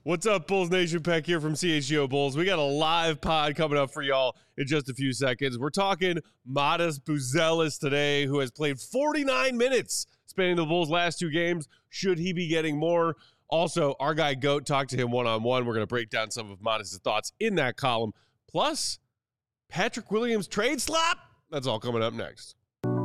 What's up, Bulls Nation? Peck here from CHGO Bulls. We got a live pod coming up for y'all in just a few seconds. We're talking Matas Buzelis today, who has played 49 minutes spanning the Bulls' last two games. Should he be getting more? Also, our guy Goat talked to him one-on-one. We're going to break down some of Matas' thoughts in that column. Plus, Patrick Williams trade slap. That's all coming up next.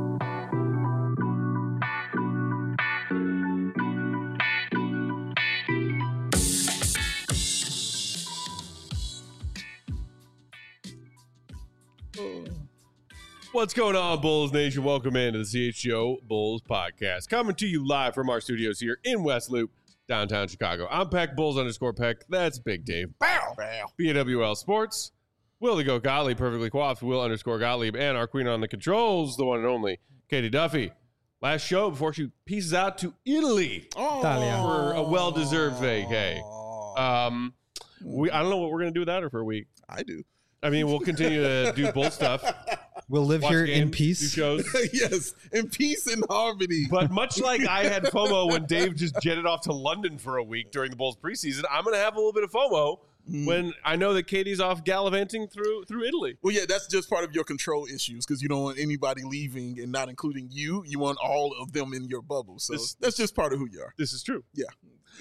What's going on, Bulls Nation? Welcome into the CHGO Bulls podcast. Coming to you live from our studios here in West Loop, downtown Chicago. I'm Peck, Bulls_Peck. That's Big Dave. Bow, bow. BWL Sports. Will the Goat Gottlieb, perfectly coiffed. Will_Gottlieb. And our queen on the controls, the one and only, Katie Duffy. Last show before she pieces out to Italy for a well-deserved vacay. I don't know what we're going to do without her for a week. I do. I mean, we'll continue to do Bull stuff. We'll live here games, in peace. Do shows. Yes, in peace and harmony. But much like I had FOMO when Dave just jetted off to London for a week during the Bulls preseason, I'm going to have a little bit of FOMO when I know that Katie's off gallivanting through Italy. Well, yeah, that's just part of your control issues because you don't want anybody leaving and not including you. You want all of them in your bubble. So that's just part of who you are. This is true. Yeah.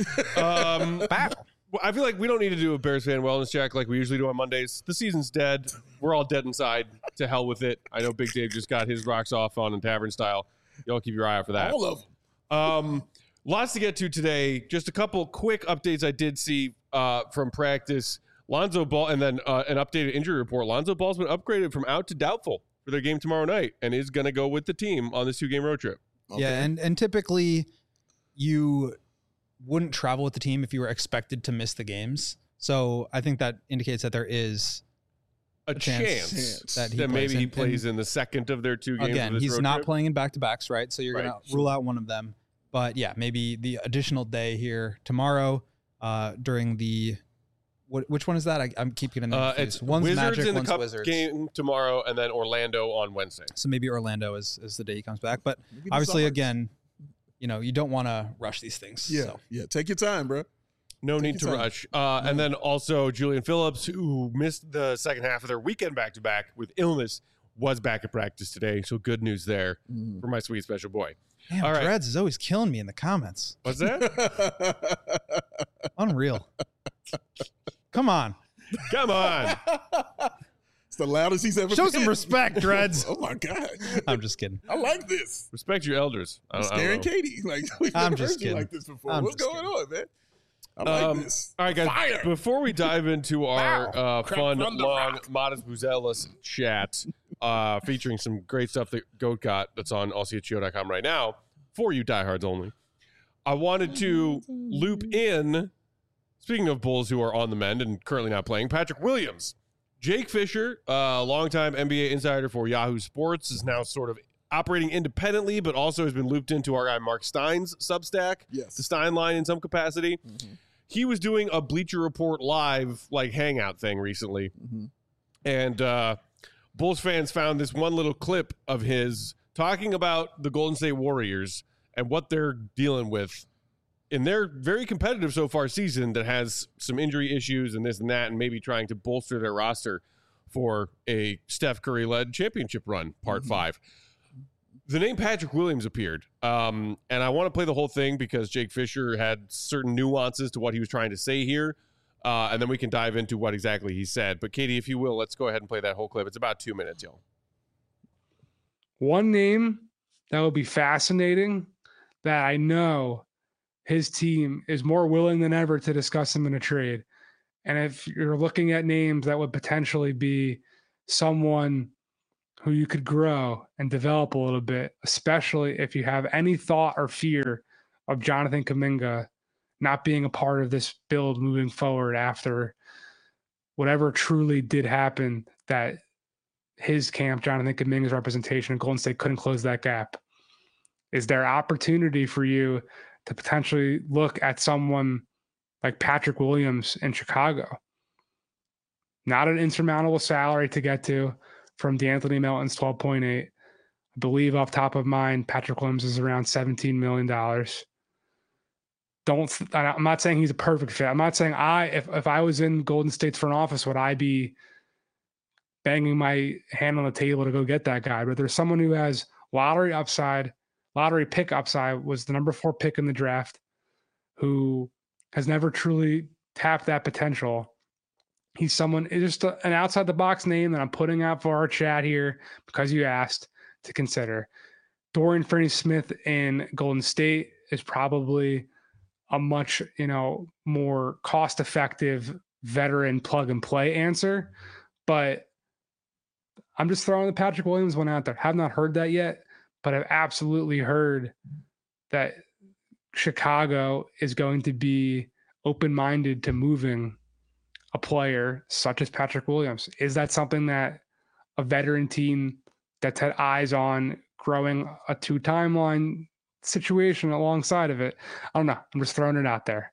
I feel like we don't need to do a Bears fan wellness check like we usually do on Mondays. The season's dead. We're all dead inside. To hell with it. I know Big Dave just got his rocks off on in Tavern Style. Y'all keep your eye out for that. All of them. Lots to get to today. Just a couple quick updates I did see from practice. Lonzo Ball, and then an updated injury report. Lonzo Ball's been upgraded from out to doubtful for their game tomorrow night and is going to go with the team on this 2-game road trip. Okay. Yeah, and typically you wouldn't travel with the team if you were expected to miss the games. So I think that indicates that there is a chance that maybe he plays in the second of their 2 games. Again, of this he's road not trip. playing in back-to-backs, right? So you're going to rule out one of them. But yeah, maybe the additional day here tomorrow during the which one is that? I'm keep getting it's one's Wizards Magic, in the one's Cup Wizards game tomorrow, and then Orlando on Wednesday. So maybe Orlando is the day he comes back. But obviously, again, you don't want to rush these things. Yeah, so. yeah. Take your time, bro. No need to rush. And then also Julian Phillips, who missed the second half of their weekend back-to-back with illness, was back at practice today. So good news there for my sweet special boy. Damn, all right. Dreads is always killing me in the comments. What's that? Unreal. Come on. Come on. It's the loudest he's ever Show been. some respect, Dreads. Oh, my God. I'm just kidding. I like this. Respect your elders. I'm scaring Katie. Like, we've I'm never just heard you kidding. like this before. I'm What's just going kidding. on, man? I like this. All right, guys. Fire. Before we dive into our fun, from the long, rock. Matas Buzelis chat, featuring some great stuff that Goat got that's on allchgo.com right now, for you diehards only, I wanted to loop in, speaking of Bulls who are on the mend and currently not playing, Patrick Williams. Jake Fisher, longtime NBA insider for Yahoo Sports, is now sort of operating independently, but also has been looped into our guy Mark Stein's Substack, Yes. the Stein line in some capacity. Mm-hmm. He was doing a Bleacher Report live hangout thing recently, and Bulls fans found this one little clip of his talking about the Golden State Warriors and what they're dealing with in their very competitive so far season that has some injury issues and this and that, and maybe trying to bolster their roster for a Steph Curry-led championship run, part 5. The name Patrick Williams appeared, and I want to play the whole thing because Jake Fisher had certain nuances to what he was trying to say here, and then we can dive into what exactly he said. But Katie, if you will, let's go ahead and play that whole clip. It's about 2 minutes, y'all. One name that would be fascinating that I know his team is more willing than ever to discuss him in a trade. And if you're looking at names that would potentially be someone who you could grow and develop a little bit, especially if you have any thought or fear of Jonathan Kuminga not being a part of this build moving forward after whatever truly did happen, that his camp, Jonathan Kuminga's representation in Golden State, couldn't close that gap. Is there opportunity for you to potentially look at someone like Patrick Williams in Chicago? Not an insurmountable salary to get to from DeAnthony Melton's 12.8. I believe off top of mind, Patrick Williams is around $17 million. I'm not saying he's a perfect fit. I'm not saying if I was in Golden State's front office, would I be banging my hand on the table to go get that guy? But there's someone who has lottery pick upside, was the number 4 pick in the draft, who has never truly tapped that potential. He's someone, it's just an outside the box name that I'm putting out for our chat here because you asked to consider. Dorian Finney-Smith in Golden State is probably a much, more cost-effective veteran plug-and-play answer. But I'm just throwing the Patrick Williams one out there. Have not heard that yet, but I've absolutely heard that Chicago is going to be open-minded to moving a player such as Patrick Williams. Is that something that a veteran team that's had eyes on growing a 2 timeline situation alongside of it? I don't know. I'm just throwing it out there.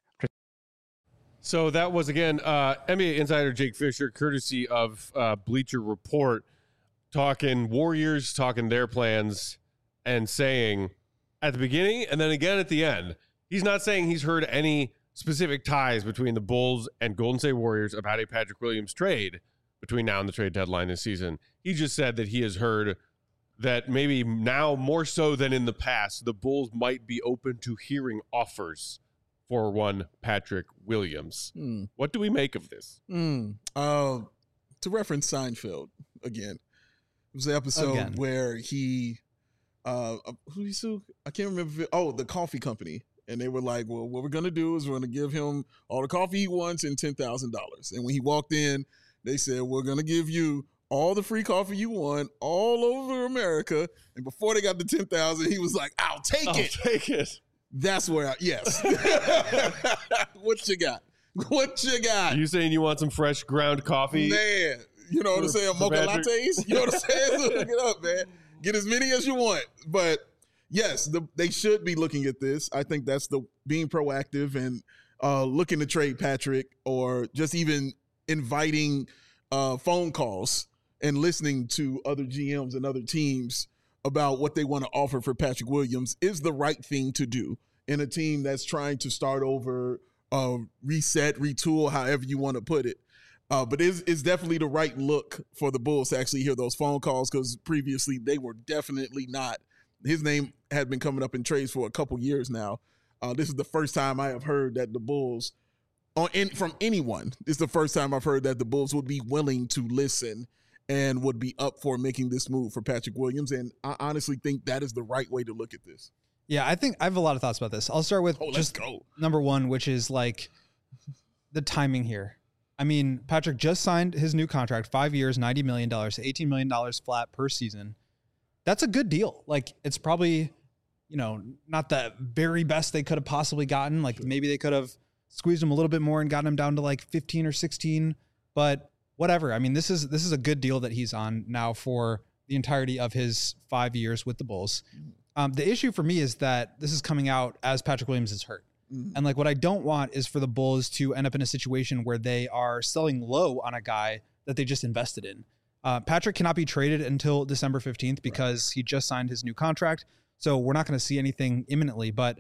So that was, again, NBA insider Jake Fisher, courtesy of Bleacher Report, talking Warriors, talking their plans, and saying at the beginning and then again at the end, he's not saying he's heard any specific ties between the Bulls and Golden State Warriors about a Patrick Williams trade between now and the trade deadline this season. He just said that he has heard that maybe now more so than in the past, the Bulls might be open to hearing offers for one Patrick Williams. What do we make of this? To reference Seinfeld again, it was the episode where he, who he sued? I can't remember. The coffee company. And they were like, well, what we're going to do is we're going to give him all the coffee he wants and $10,000. And when he walked in, they said, we're going to give you all the free coffee you want all over America. And before they got the $10,000, he was like, I'll take it. That's where yes. What you got? Are you saying you want some fresh ground coffee? Man, you know what I'm saying? Mocha lattes? You know what I'm saying? So look it up, man. Get as many as you want. But yes, they should be looking at this. I think that's being proactive and looking to trade Patrick, or just even inviting phone calls and listening to other GMs and other teams about what they want to offer for Patrick Williams is the right thing to do in a team that's trying to start over, reset, retool, however you want to put it. But it's definitely the right look for the Bulls to actually hear those phone calls, because previously they were definitely not. His name had been coming up in trades for a couple years now. This is the first time I have heard that the Bulls, from anyone, this is the first time I've heard that the Bulls would be willing to listen and would be up for making this move for Patrick Williams. And I honestly think that is the right way to look at this. Yeah, I think I have a lot of thoughts about this. I'll start with number one, which is like the timing here. I mean, Patrick just signed his new contract, 5 years, $90 million, $18 million flat per season. That's a good deal. Like, it's probably, not the very best they could have possibly gotten. Like, maybe they could have squeezed him a little bit more and gotten him down to like 15 or 16, but whatever. I mean, this is a good deal that he's on now for the entirety of his 5 years with the Bulls. The issue for me is that this is coming out as Patrick Williams is hurt. And like, what I don't want is for the Bulls to end up in a situation where they are selling low on a guy that they just invested in. Patrick cannot be traded until December 15th because he just signed his new contract. So we're not going to see anything imminently. But,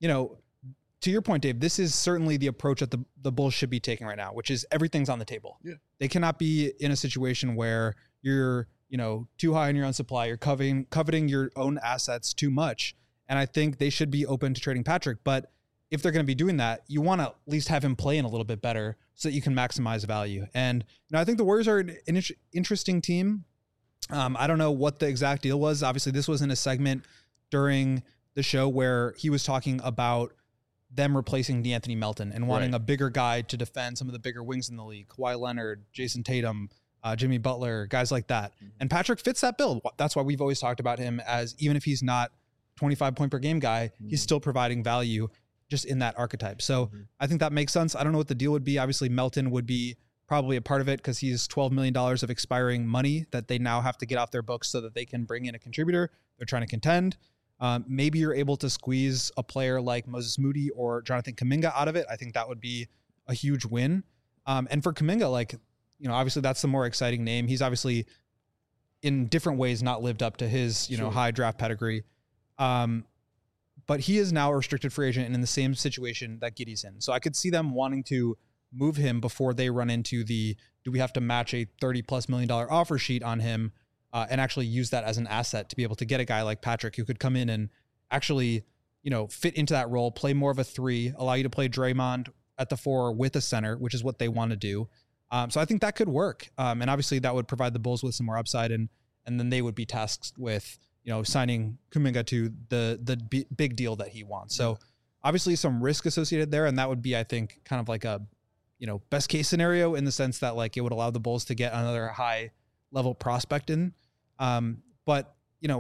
to your point, Dave, this is certainly the approach that the Bulls should be taking right now, which is everything's on the table. Yeah. They cannot be in a situation where you're, too high on your own supply. You're coveting your own assets too much. And I think they should be open to trading Patrick. But if they're going to be doing that, you want to at least have him play in a little bit better so that you can maximize value. And I think the Warriors are an interesting team. I don't know what the exact deal was. Obviously, this was in a segment during the show where he was talking about them replacing DeAnthony Melton and wanting a bigger guy to defend some of the bigger wings in the league. Kawhi Leonard, Jason Tatum, Jimmy Butler, guys like that. And Patrick fits that bill. That's why we've always talked about him as, even if he's not 25 point per game guy, he's still providing value just in that archetype. So I think that makes sense. I don't know what the deal would be. Obviously, Melton would be probably a part of it because he's $12 million of expiring money that they now have to get off their books so that they can bring in a contributor. They're trying to contend. Maybe you're able to squeeze a player like Moses Moody or Jonathan Kuminga out of it. I think that would be a huge win. And for Kuminga, obviously that's the more exciting name. He's obviously in different ways not lived up to his, high draft pedigree. But he is now a restricted free agent and in the same situation that Giddey's in. So I could see them wanting to move him before they run into do we have to match a $30+ million offer sheet on him and actually use that as an asset to be able to get a guy like Patrick who could come in and actually, fit into that role, play more of a 3, allow you to play Draymond at the 4 with a center, which is what they want to do. So I think that could work. And obviously that would provide the Bulls with some more upside and then they would be tasked with, signing Kuminga to the big deal that he wants. So obviously some risk associated there. And that would be, I think, kind of like a, best case scenario in the sense that like it would allow the Bulls to get another high level prospect in. But,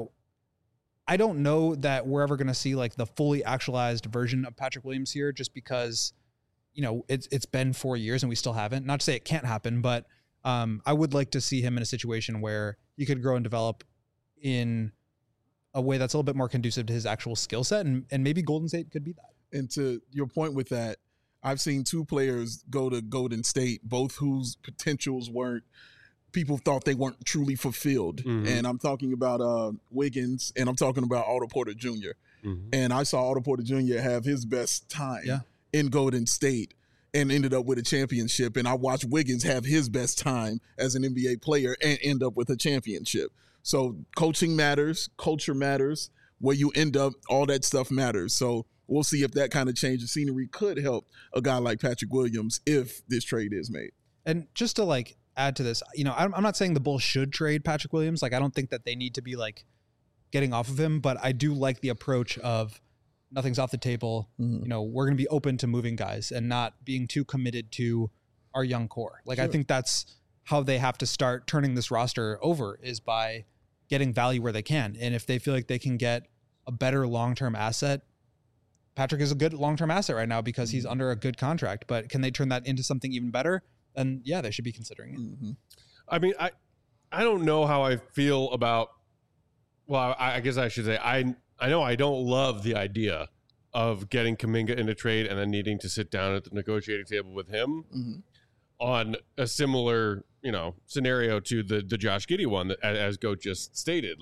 I don't know that we're ever going to see like the fully actualized version of Patrick Williams here just because, it's been 4 years and we still haven't. Not to say it can't happen, but I would like to see him in a situation where he could grow and develop in a way that's a little bit more conducive to his actual skill set. And maybe Golden State could be that. And to your point with that, I've seen 2 players go to Golden State, both whose potentials people thought they weren't truly fulfilled. Mm-hmm. And I'm talking about Wiggins and I'm talking about Otto Porter Jr. Mm-hmm. And I saw Otto Porter Jr. have his best time in Golden State and ended up with a championship. And I watched Wiggins have his best time as an NBA player and end up with a championship. So coaching matters, culture matters, where you end up, all that stuff matters. So we'll see if that kind of change of scenery could help a guy like Patrick Williams if this trade is made. And just to add to this, I'm not saying the Bulls should trade Patrick Williams. I don't think that they need to be getting off of him, but I do like the approach of nothing's off the table. Mm-hmm. We're going to be open to moving guys and not being too committed to our young core. Sure. I think that's how they have to start turning this roster over is by getting value where they can. And if they feel like they can get a better long-term asset, Patrick is a good long-term asset right now because he's under a good contract, but can they turn that into something even better? Then yeah, they should be considering it. Mm-hmm. I mean, I don't know how I feel about, well, I guess I should say, I know I don't love the idea of getting Kuminga in a trade and then needing to sit down at the negotiating table with him on a similar, scenario to the Josh Giddey one that, as Goat just stated.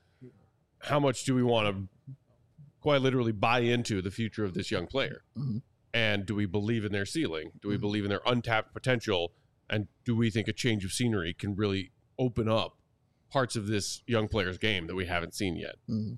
How much do we want to quite literally buy into the future of this young player? Mm-hmm. And do we believe in their ceiling? Do we believe in their untapped potential? And do we think a change of scenery can really open up parts of this young player's game that we haven't seen yet? Mm-hmm.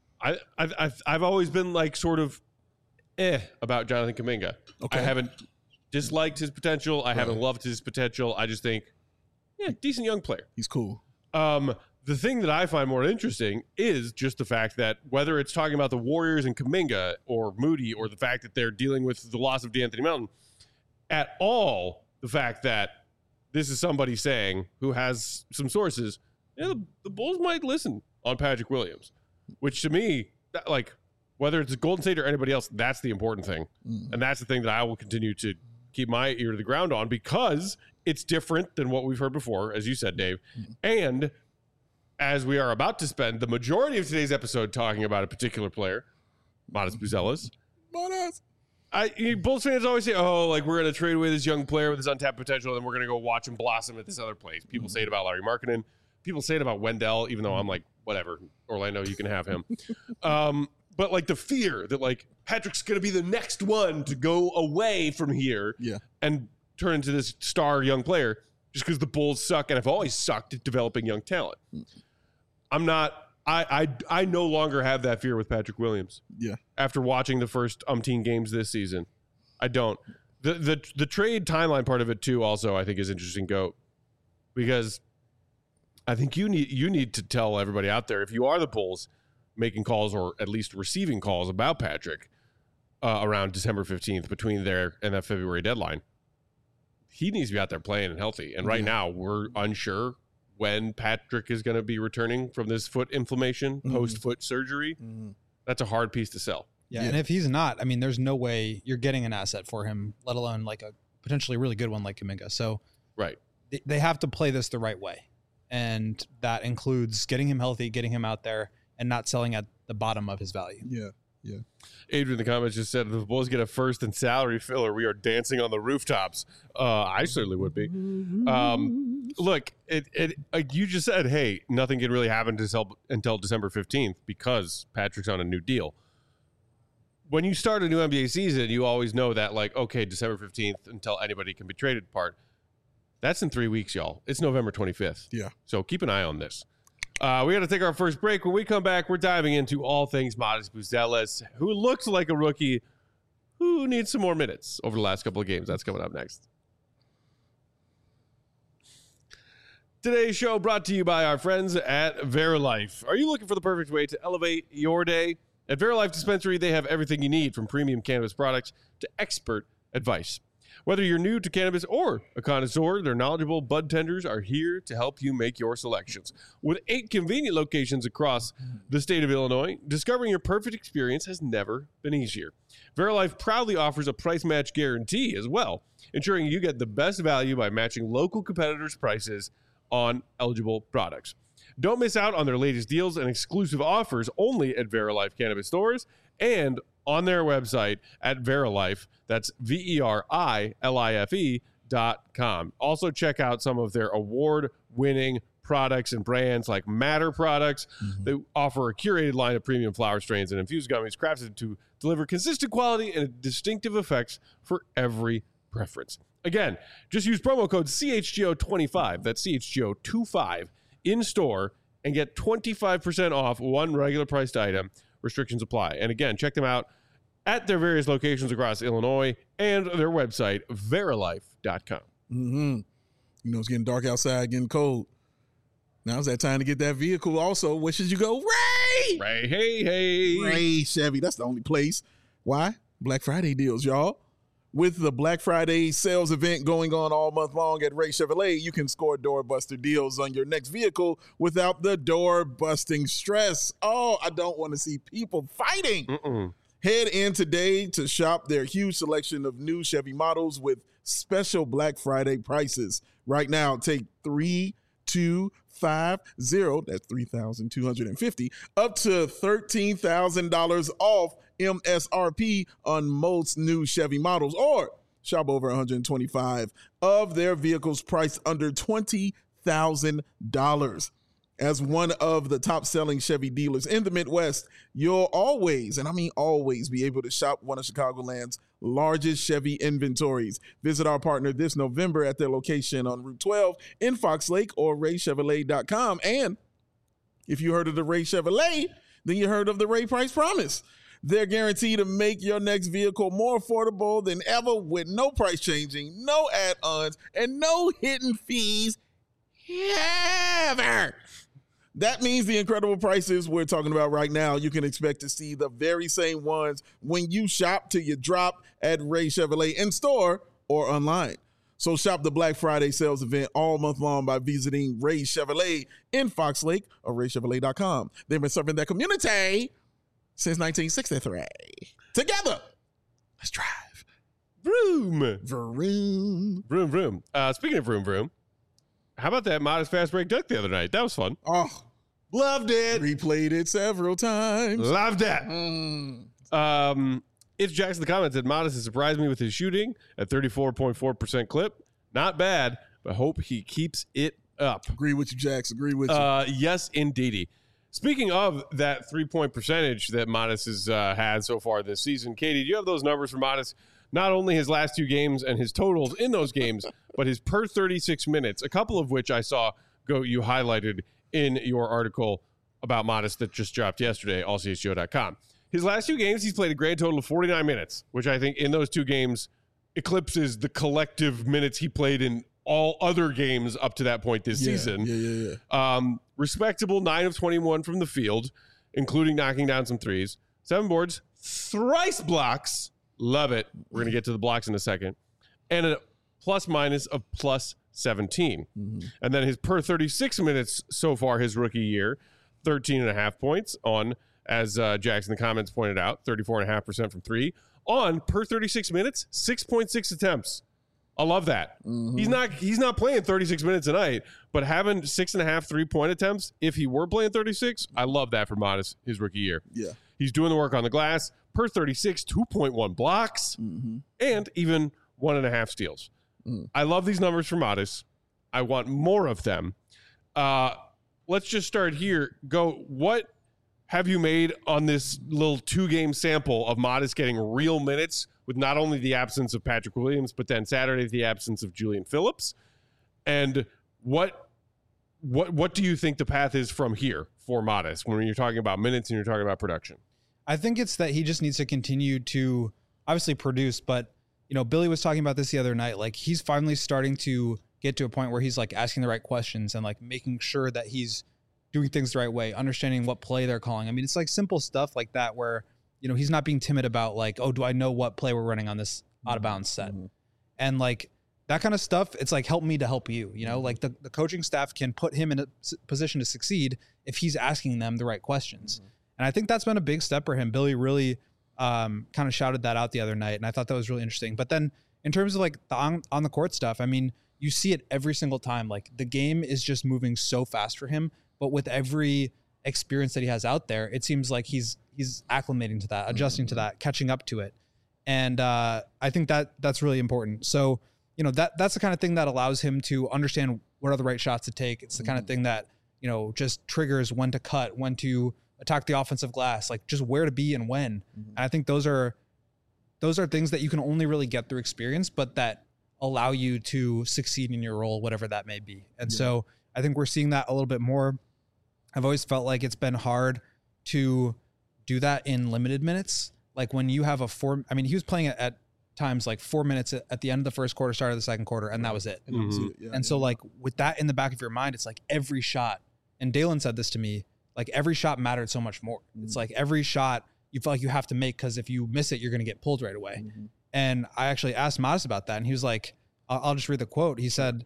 I've always been sort of about Jonathan Kuminga. Okay. I haven't disliked his potential. I haven't loved his potential. I just think, decent young player. He's cool. The thing that I find more interesting is just the fact that whether it's talking about the Warriors and Kuminga or Moody or the fact that they're dealing with the loss of DeAnthony Melton, at all the fact that this is somebody saying who has some sources, the Bulls might listen on Patrick Williams, which to me, whether it's Golden State or anybody else, that's the important thing. And that's the thing that I will continue to keep my ear to the ground on because it's different than what we've heard before, as you said, Dave. And as we are about to spend the majority of today's episode talking about a particular player, Matas Buzelis. Bulls fans always say, we're going to trade away this young player with his untapped potential, and we're going to go watch him blossom at this other place. People say it about Larry Markkinen. People say it about Wendell, even though I'm whatever, Orlando, you can have him. But the fear that Patrick's going to be the next one to go away from here and turn into this star young player just because the Bulls suck and have always sucked at developing young talent. I'm not, I no longer have that fear with Patrick Williams. Yeah. After watching the first umpteen games this season, I don't. The trade timeline part of it too, also, I think is interesting, Goat, because I think you need to tell everybody out there, if you are the Bulls making calls or at least receiving calls about Patrick around December 15th between there and that February deadline, he needs to be out there playing and healthy. And right now we're unsure when Patrick is going to be returning from this foot inflammation post-foot surgery. That's a hard piece to sell. Yeah, and if he's not, there's no way you're getting an asset for him, let alone a potentially really good one like Kuminga. So right, they have to play this the right way. And that includes getting him healthy, getting him out there, and not selling at the bottom of his value. Yeah. Adrian in the comments just said, if the Bulls get a first and salary filler, we are dancing on the rooftops. I certainly would be. Look, it you just said, hey, nothing can really happen until December 15th because Patrick's on a new deal. when you start a new NBA season, you always know that, like, okay, December 15th until anybody can be traded part. That's in 3 weeks, y'all. It's November 25th. Yeah. So keep an eye on this. We got to take our first break. When we come back, we're diving into all things Matas Buzelis, who looks like a rookie who needs some more minutes over the last couple of games. That's coming up next. Today's show brought to you by our friends at Verilife. Are you looking for the perfect way to elevate your day? At Verilife Dispensary, they have everything you need, from premium cannabis products to expert advice. Whether you're new to cannabis or a connoisseur, their knowledgeable bud tenders are here to help you make your selections. With 8 convenient locations across the state of Illinois, discovering your perfect experience has never been easier. Verilife proudly offers a price match guarantee as well, ensuring you get the best value by matching local competitors' prices on eligible products. Don't miss out on their latest deals and exclusive offers only at Verilife Cannabis stores and on their website at Verilife. That's VERILIFE.com. Also check out some of their award-winning products and brands like Matter products. They offer a curated line of premium flower strains and infused gummies crafted to deliver consistent quality and distinctive effects for every preference. Again, just use promo code CHGO25, that's CHGO25, in store and get 25% off one regular priced item. Restrictions apply. And again, check them out at their various locations across Illinois and their website, verilife.com. You know, it's getting dark outside, getting cold. Now's that time to get that vehicle. Also, where should you go? Ray! Ray, hey. Ray Chevy. That's the only place. Why? Black Friday deals, y'all. With the Black Friday sales event going on all month long at Ray Chevrolet, you can score doorbuster deals on your next vehicle without the door-busting stress. Oh, I don't want to see people fighting. Head in today to shop their huge selection of new Chevy models with special Black Friday prices. Right now, take 3250, that's $3,250, up to $13,000 off MSRP on most new Chevy models, or shop over 125 of their vehicles priced under $20,000. As one of the top-selling Chevy dealers in the Midwest, you'll always, and I mean always, be able to shop one of Chicagoland's largest Chevy inventories. Visit our partner this November at their location on Route 12 in Fox Lake or RayChevrolet.com. And if you heard of the Ray Chevrolet, then you heard of the Ray Price Promise. They're guaranteed to make your next vehicle more affordable than ever with no price changing, no add-ons, and no hidden fees ever. That means the incredible prices we're talking about right now, you can expect to see the very same ones when you shop till you drop at Ray Chevrolet in store or online. So shop the Black Friday sales event all month long by visiting Ray Chevrolet in Fox Lake or RayChevrolet.com. They've been serving their community since 1963. Together, let's drive. Vroom. Vroom. Vroom, vroom. Speaking of vroom, vroom, how about that Modest Fast Break Duck the other night? That was fun. Oh, loved it. Replayed it several times. Loved it. It's Jackson the Comment said Modest has surprised me with his shooting at 34.4% clip. Not bad, but hope he keeps it up. Agree with you, Jax. Agree with you. Yes, indeedy. Speaking of that 3-point percentage that Modest has had so far this season, Katie, do you have those numbers for Modest? Not only his last 2 games and his totals in those games, but his per 36 minutes, a couple of which I saw you highlighted in your article about Modest that just dropped yesterday, allchgo.com. His last 2 games, he's played a grand total of 49 minutes, which I think in those 2 games eclipses the collective minutes he played in all other games up to that point this season. Respectable 9 of 21 from the field, including knocking down some threes. 7 boards, thrice blocks. Love it. We're going to get to the blocks in a second. And a plus minus of plus 17. And then his per 36 minutes so far his rookie year, 13.5 points on, as Jackson in the comments pointed out, 34.5% from 3. On per 36 minutes, 6.6 attempts. I love that. He's not playing 36 minutes a night, but having 6.5 3-point attempts, if he were playing 36, I love that for Modest his rookie year. Yeah. He's doing the work on the glass. Per 36, 2.1 blocks, and even 1.5 steals. I love these numbers for Modest. I want more of them. Let's just start here. have you made on this little 2-game sample of Modest getting real minutes with not only the absence of Patrick Williams, but then Saturday the absence of Julian Phillips? And what do you think the path is from here for Modest when you're talking about minutes and you're talking about production? I think it's that he just needs to continue to obviously produce, but Billy was talking about this the other night. Like, he's finally starting to get to a point where he's like asking the right questions and like making sure that he's doing things the right way, understanding what play they're calling. I mean, it's like simple stuff like that where, he's not being timid about like, oh, do I know what play we're running on this out of bounds set? And like that kind of stuff, it's like, help me to help you, like the coaching staff can put him in a position to succeed if he's asking them the right questions. And I think that's been a big step for him. Billy really kind of shouted that out the other night. And I thought that was really interesting. But then in terms of like the on the court stuff, I mean, you see it every single time. Like, the game is just moving so fast for him. But with every experience that he has out there, it seems like he's acclimating to that, adjusting to that, catching up to it. And I think that's really important. So, that's the kind of thing that allows him to understand what are the right shots to take. It's the kind of thing that, just triggers when to cut, when to attack the offensive glass, like just where to be and when. And I think those are things that you can only really get through experience, but that allow you to succeed in your role, whatever that may be. And so I think we're seeing that a little bit more. I've always felt like it's been hard to do that in limited minutes. Like when you have he was playing at times like 4 minutes at the end of the first quarter, start of the second quarter, and that was it. And so like with that in the back of your mind, it's like every shot, and Dalen said this to me, like every shot mattered so much more. It's like every shot you feel like you have to make, because if you miss it, you're going to get pulled right away. And I actually asked Modest about that, and he was like, I'll just read the quote. He said,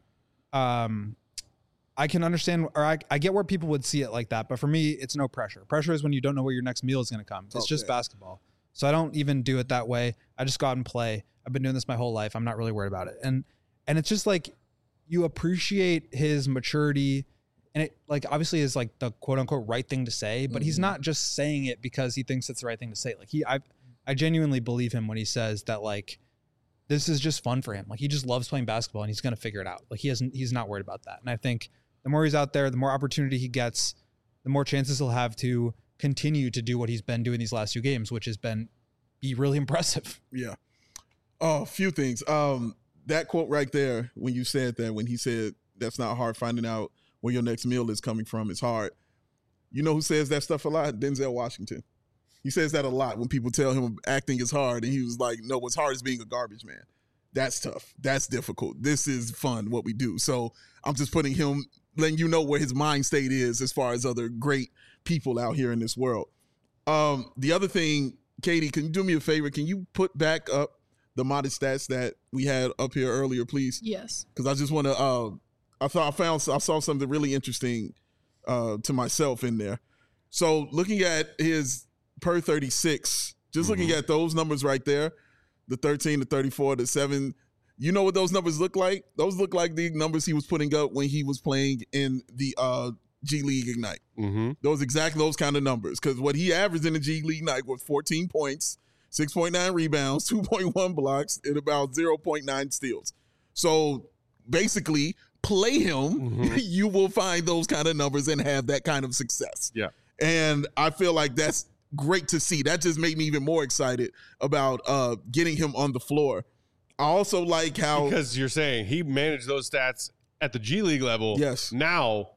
I can understand, or I get where people would see it like that, but for me, it's no pressure. Pressure is when you don't know where your next meal is going to come. It's just basketball. So I don't even do it that way. I just go out and play. I've been doing this my whole life. I'm not really worried about it. And it's just like, you appreciate his maturity, and it like obviously is like the quote unquote right thing to say, but he's not just saying it because he thinks it's the right thing to say. Like I genuinely believe him when he says that like, this is just fun for him. Like, he just loves playing basketball and he's going to figure it out. Like, he's not worried about that. And I think the more he's out there, the more opportunity he gets, the more chances he'll have to continue to do what he's been doing these last 2 games, which has be really impressive. Yeah. Oh, a few things. That quote right there, when you said that, when he said that's not hard, finding out where your next meal is coming from is hard. You know who says that stuff a lot? Denzel Washington. He says that a lot when people tell him acting is hard. And he was like, no, what's hard is being a garbage man. That's tough. That's difficult. This is fun, what we do. So I'm just putting him, letting you know where his mind state is as far as other great people out here in this world. The other thing, Katie, can you do me a favor? Can you put back up the Modest stats that we had up here earlier, please? Yes. Because I just want to, I saw something really interesting to myself in there. So looking at his per 36, just looking at those numbers right there, the 13, the 34, the 7, you know what those numbers look like? Those look like the numbers he was putting up when he was playing in the G League Ignite. Those kind of numbers, because what he averaged in the G League Ignite was 14 points, 6.9 rebounds, 2.1 blocks, and about 0.9 steals. So basically, play him, you will find those kind of numbers and have that kind of success. Yeah. And I feel like that's great to see. That just made me even more excited about getting him on the floor. I also like how, because you're saying he managed those stats at the G League level. Yes. Now,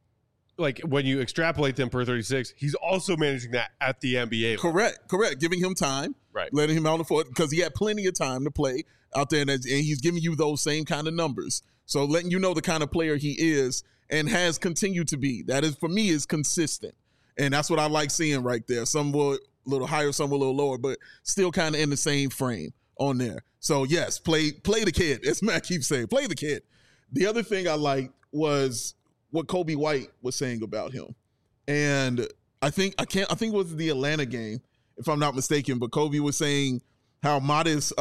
like when you extrapolate them per 36, he's also managing that at the NBA level. Correct. Giving him time, right? Letting him out on the floor, because he had plenty of time to play out there, and he's giving you those same kind of numbers. So letting you know the kind of player he is and has continued to be. That is, for me, is consistent. And that's what I like seeing right there. Some were a little higher, some were a little lower, but still kind of in the same frame on there. So, yes, play the kid. As Matt keeps saying, play the kid. The other thing I liked was what Kobe White was saying about him. And I think it was the Atlanta game, if I'm not mistaken, but Kobe was saying how Modest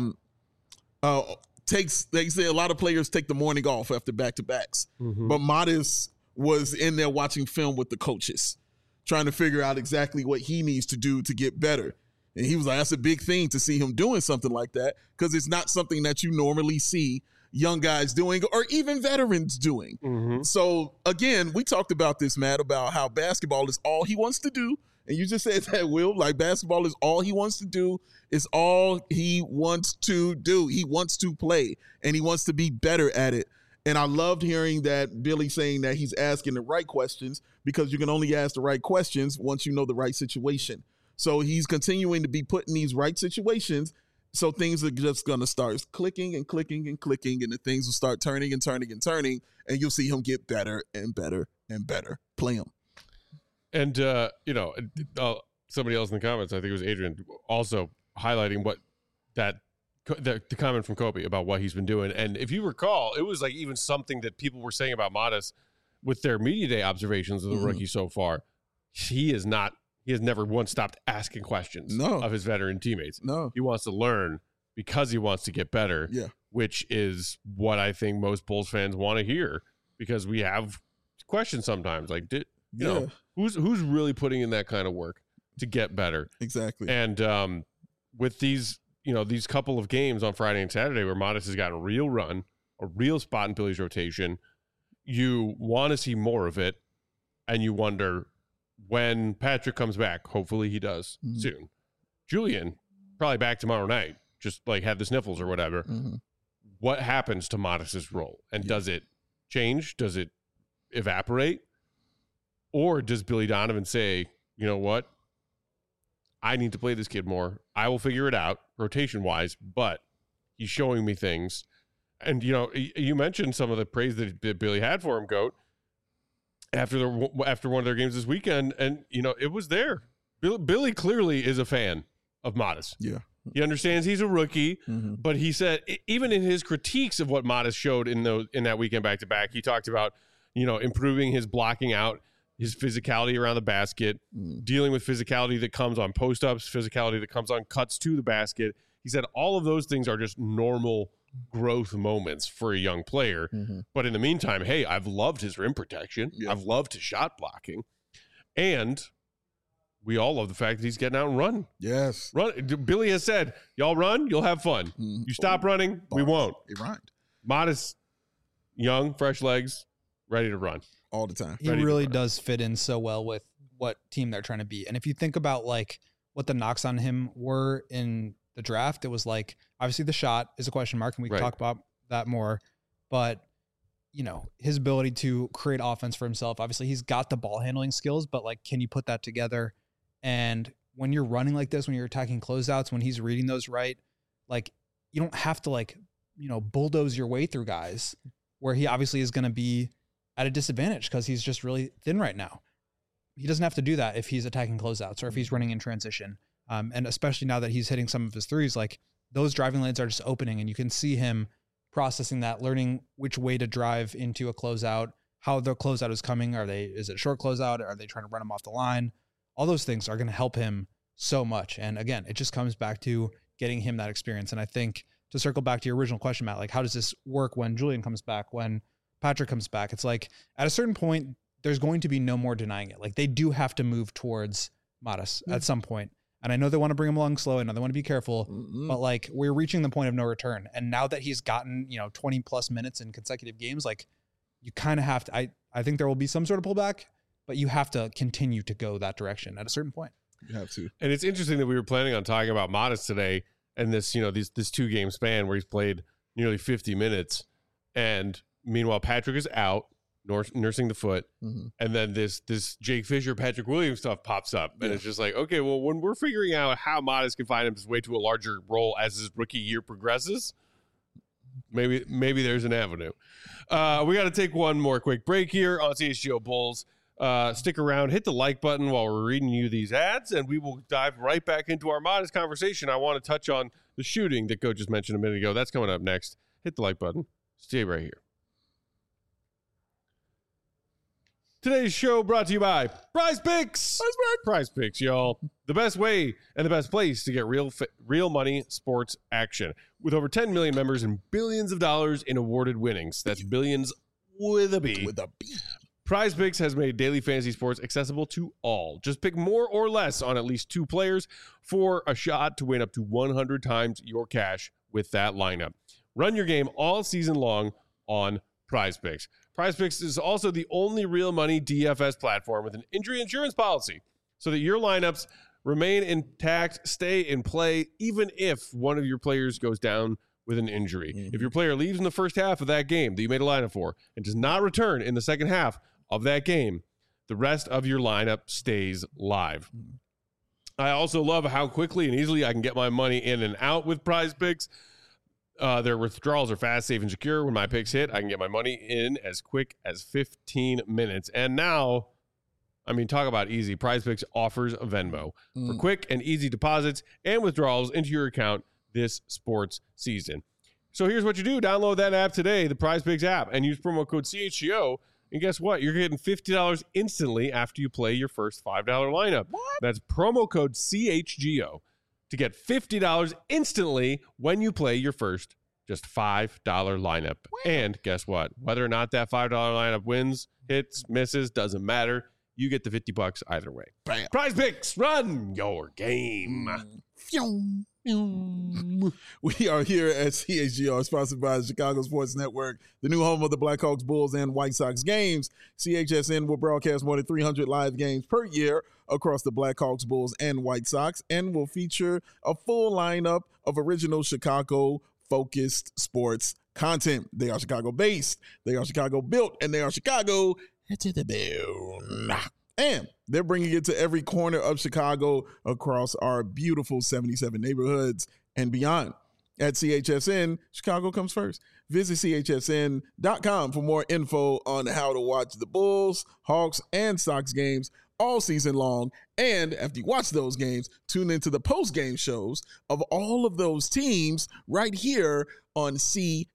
they say a lot of players take the morning off after back-to-backs. But Modest was in there watching film with the coaches, trying to figure out exactly what he needs to do to get better. And he was like, that's a big thing to see him doing something like that, because it's not something that you normally see young guys doing or even veterans doing. So, again, we talked about this, Matt, about how basketball is all he wants to do And you just said that, Will, like basketball is all he wants to do. It's all he wants to do. He wants to play, and he wants to be better at it. And I loved hearing that Billy saying that he's asking the right questions, because you can only ask the right questions once you know the right situation. So he's continuing to be put in these right situations. So things are just going to start clicking and clicking and clicking, and the things will start turning and turning and turning, and you'll see him get better and better and better. Play him. And, somebody else in the comments, I think it was Adrian, also highlighting what the comment from Kobe about what he's been doing. And if you recall, it was like even something that people were saying about Modest with their media day observations of the rookie so far. He has never once stopped asking questions of his veteran teammates. No. He wants to learn because he wants to get better, which is what I think most Bulls fans want to hear, because we have questions sometimes like, you know, who's really putting in that kind of work to get better? Exactly. And with these couple of games on Friday and Saturday where Modest has gotten a real run, a real spot in Billy's rotation, you want to see more of it, and you wonder when Patrick comes back. Hopefully he does soon. Julian, probably back tomorrow night, just like had the sniffles or whatever. What happens to Modest's role? And does it change? Does it evaporate? Or does Billy Donovan say, you know what? I need to play this kid more. I will figure it out rotation-wise, but he's showing me things. And, you mentioned some of the praise that Billy had for him, Goat, after one of their games this weekend, and, it was there. Billy clearly is a fan of Modest. Yeah. He understands he's a rookie, but he said, even in his critiques of what Modest showed in that weekend back-to-back, he talked about, improving his blocking out, his physicality around the basket, dealing with physicality that comes on post-ups, physicality that comes on cuts to the basket. He said all of those things are just normal growth moments for a young player. But in the meantime, hey, I've loved his rim protection. I've loved his shot blocking. And we all love the fact that he's getting out and running. Yes. Billy has said, y'all run, you'll have fun. You stop running, we won't. He rhymed. Modest, young, fresh legs, ready to run. All the time. He really does fit in so well with what team they're trying to be. And if you think about like what the knocks on him were in the draft, it was like, obviously the shot is a question mark, and we can talk about that more, but his ability to create offense for himself, obviously he's got the ball handling skills, but like, can you put that together? And when you're running like this, when you're attacking closeouts, when he's reading those right, like you don't have to bulldoze your way through guys where he obviously is going to be at a disadvantage because he's just really thin right now. He doesn't have to do that if he's attacking closeouts or if he's running in transition. And especially now that he's hitting some of his threes, like those driving lanes are just opening, and you can see him processing that, learning which way to drive into a closeout, how the closeout is coming. Is it a short closeout? Are they trying to run him off the line? All those things are going to help him so much. And again, it just comes back to getting him that experience. And I think to circle back to your original question, Matt, like how does this work when Julian comes back, when Patrick comes back? It's like at a certain point, there's going to be no more denying it. Like they do have to move towards Modest at some point. And I know they want to bring him along slow. I know they want to be careful, but like we're reaching the point of no return. And now that he's gotten, 20 plus minutes in consecutive games, like you kind of have to, I think there will be some sort of pullback, but you have to continue to go that direction at a certain point. You have to. And it's interesting that we were planning on talking about Modest today and this, this 2-game span where he's played nearly 50 minutes. And meanwhile, Patrick is out nursing the foot. And then this Jake Fisher, Patrick Williams stuff pops up. And it's just like, okay, well, when we're figuring out how Modest can find his way to a larger role as his rookie year progresses, maybe there's an avenue. We got to take one more quick break here on CHGO Bulls. Stick around, hit the like button while we're reading you these ads, and we will dive right back into our Modest conversation. I want to touch on the shooting that Coach just mentioned a minute ago. That's coming up next. Hit the like button. Stay right here. Today's show brought to you by Prize Picks. Prize Picks, y'all. The best way and the best place to get real money sports action. With over 10 million members and billions of dollars in awarded winnings. That's billions with a B. With a B. Prize Picks has made daily fantasy sports accessible to all. Just pick more or less on at least 2 players for a shot to win up to 100 times your cash with that lineup. Run your game all season long on Prize Picks. Prize Picks is also the only real money DFS platform with an injury insurance policy. so that your lineups remain intact, stay in play, even if one of your players goes down with an injury. If your player leaves in the first half of that game that you made a lineup for and does not return in the second half of that game, the rest of your lineup stays live. I also love how quickly and easily I can get my money in and out with Prize Picks. Their withdrawals are fast, safe, and secure. When my picks hit, I can get my money in as quick as 15 minutes. And now, I mean, talk about easy. Prize Picks offers a Venmo for quick and easy deposits and withdrawals into your account this sports season. So here's what you do. Download that app today, the Prize Picks app, and use promo code CHGO. And guess what? You're getting $50 instantly after you play your first $5 lineup. What? That's promo code CHGO to get $50 instantly when you play your first just $5 lineup. Wow. And guess what? Whether or not that $5 lineup wins, hits, misses, doesn't matter. You get the $50 either way. Bam. Prize Picks, run your game. We are here at CHGO, sponsored by the Chicago Sports Network, the new home of the Blackhawks, Bulls, and White Sox games. CHSN will broadcast more than 300 live games per year across the Blackhawks, Bulls, and White Sox, and will feature a full lineup of original Chicago-focused sports content. They are Chicago-based, they are Chicago-built, and they are Chicago to the bone. And they're bringing it to every corner of Chicago across our beautiful 77 neighborhoods and beyond. At CHSN, Chicago comes first. Visit CHSN.com for more info on how to watch the Bulls, Hawks, and Sox games all season long. And after you watch those games, tune into the post-game shows of all of those teams right here on CHGO.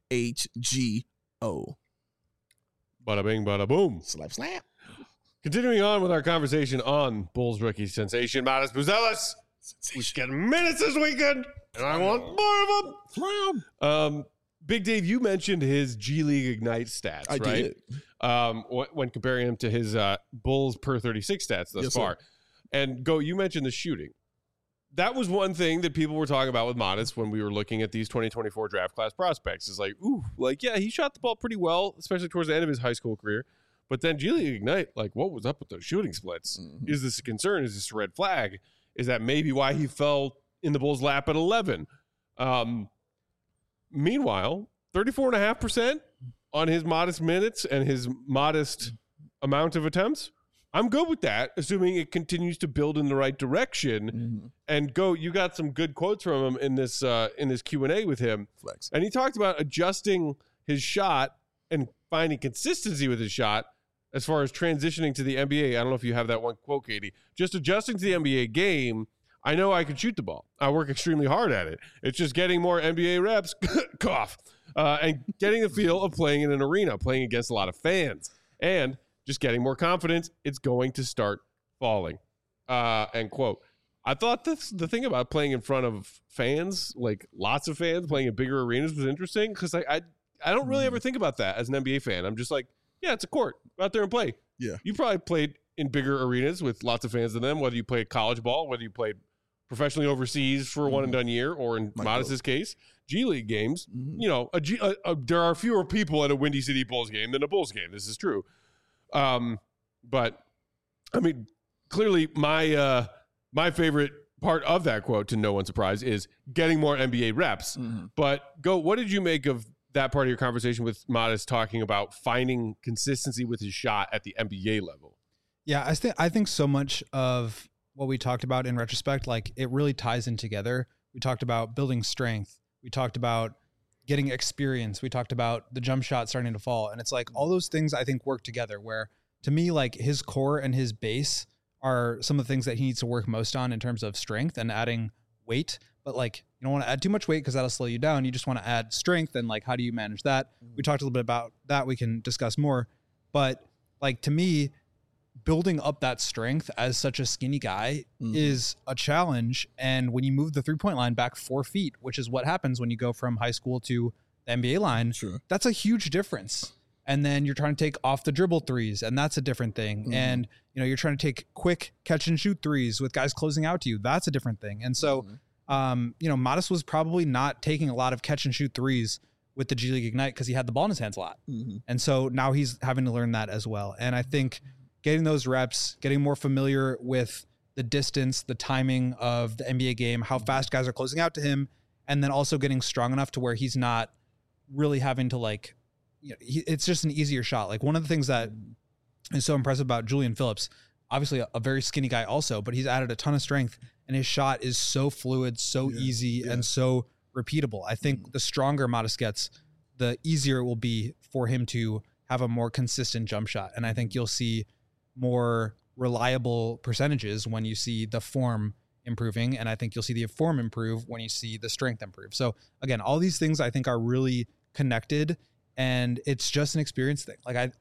Bada bing, bada boom. Slap, slap. Continuing on with our conversation on Bulls rookie sensation, Matas Buzelis. He's getting minutes this weekend, and I want more of them. Big Dave, you mentioned his G League Ignite stats, I right? Did. When comparing him to his Bulls per 36 stats thus far. Sir. And Go, you mentioned the shooting. That was one thing that people were talking about with Matas when we were looking at these 2024 draft class prospects. Is like, yeah, he shot the ball pretty well, especially towards the end of his high school career. But then G League Ignite, like, what was up with those shooting splits? Is this a concern? Is this a red flag? Is that maybe why he fell in the Bulls' lap at 11? Meanwhile, 34.5% on his modest minutes and his modest amount of attempts. I'm good with that, assuming it continues to build in the right direction. And Go, you got some good quotes from him in this Q&A with him. Flex. And he talked about adjusting his shot and finding consistency with his shot as far as transitioning to the NBA. I don't know if you have that one quote, Katie. Just adjusting to the NBA game, I know I can shoot the ball. I work extremely hard at it. It's just getting more NBA reps, cough, and getting the feel of playing in an arena, playing against a lot of fans, and just getting more confidence. It's going to start falling, end quote. I thought the thing about playing in front of fans, like lots of fans, playing in bigger arenas was interesting because I don't really ever think about that as an NBA fan. I'm just like, yeah, it's a court. Go out there and play. Yeah. You probably played in bigger arenas with lots of fans in them, whether you played college ball, whether you played professionally overseas for a one-and-done year, or in Modest's case, G League games. You know, there are fewer people at a Windy City Bulls game than a Bulls game. This is true. But, I mean, clearly my favorite part of that quote, to no one's surprise, is getting more NBA reps. But, Go, what did you make of that part of your conversation with Modest talking about finding consistency with his shot at the NBA level? Yeah, I think so much of what we talked about in retrospect, like, it really ties in together. We talked about building strength. We talked about getting experience. We talked about the jump shot starting to fall. And it's like all those things I think work together, where to me, like, his core and his base are some of the things that he needs to work most on in terms of strength and adding weight. But, like, you don't want to add too much weight because that'll slow you down. You just want to add strength, and, like, how do you manage that? We talked a little bit about that. We can discuss more. But, like, to me, building up that strength as such a skinny guy is a challenge. And when you move the 3-point line back 4 feet, which is what happens when you go from high school to the NBA line, that's a huge difference. And then you're trying to take off the dribble threes, and that's a different thing. And, you know, you're trying to take quick catch and shoot threes with guys closing out to you. That's a different thing. And so, you know, Modest was probably not taking a lot of catch and shoot threes with the G League Ignite because he had the ball in his hands a lot. And so now he's having to learn that as well. And I think getting those reps, getting more familiar with the distance, the timing of the NBA game, how fast guys are closing out to him, and then also getting strong enough to where he's not really having to like, it's just an easier shot. Like one of the things that is so impressive about Julian Phillips, obviously a very skinny guy also, but he's added a ton of strength and his shot is so fluid, so easy and so repeatable. I think the stronger Modest gets, the easier it will be for him to have a more consistent jump shot. And I think you'll see more reliable percentages when you see the form improving. And I think you'll see the form improve when you see the strength improve. So again, all these things I think are really connected, and it's just an experience thing. Like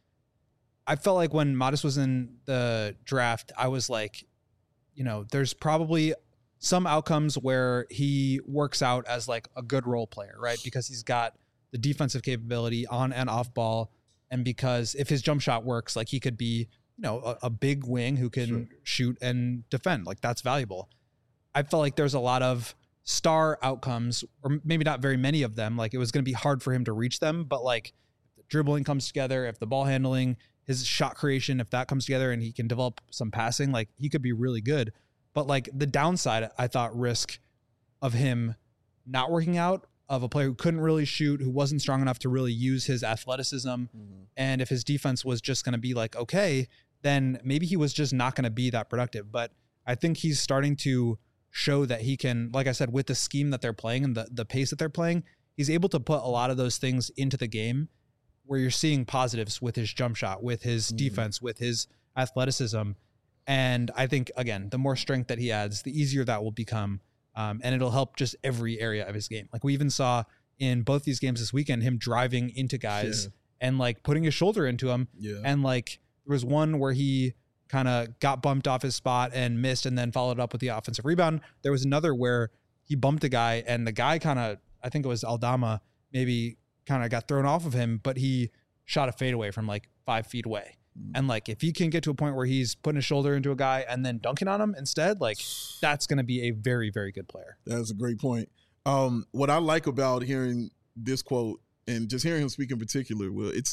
I felt like when Modest was in the draft, I was like, there's probably some outcomes where he works out as like a good role player, right? Because he's got the defensive capability on and off ball. And because if his jump shot works, like he could be, a big wing who can shoot and defend. Like that's valuable. I felt like there's a lot of star outcomes, or maybe not very many of them. Like it was going to be hard for him to reach them, but like if the dribbling comes together, if the ball handling, his shot creation, if that comes together and he can develop some passing, like he could be really good. But like the downside, I thought risk of him not working out, of a player who couldn't really shoot, who wasn't strong enough to really use his athleticism. And if his defense was just going to be like, okay, then maybe he was just not going to be that productive. But I think he's starting to show that he can, like I said, with the scheme that they're playing and the pace that they're playing, he's able to put a lot of those things into the game where you're seeing positives with his jump shot, with his defense, with his athleticism. And I think, again, the more strength that he adds, the easier that will become. And it'll help just every area of his game. Like we even saw in both these games this weekend, him driving into guys and like putting his shoulder into them. And like there was one where he kind of got bumped off his spot and missed and then followed up with the offensive rebound. There was another where he bumped a guy and the guy kind of, I think it was Aldama, maybe kind of got thrown off of him, but he shot a fadeaway from like 5 feet away. And like, if he can get to a point where he's putting his shoulder into a guy and then dunking on him instead, like that's going to be a very, very good player. That's a great point. What I like about hearing this quote and just hearing him speak in particular, Will, it's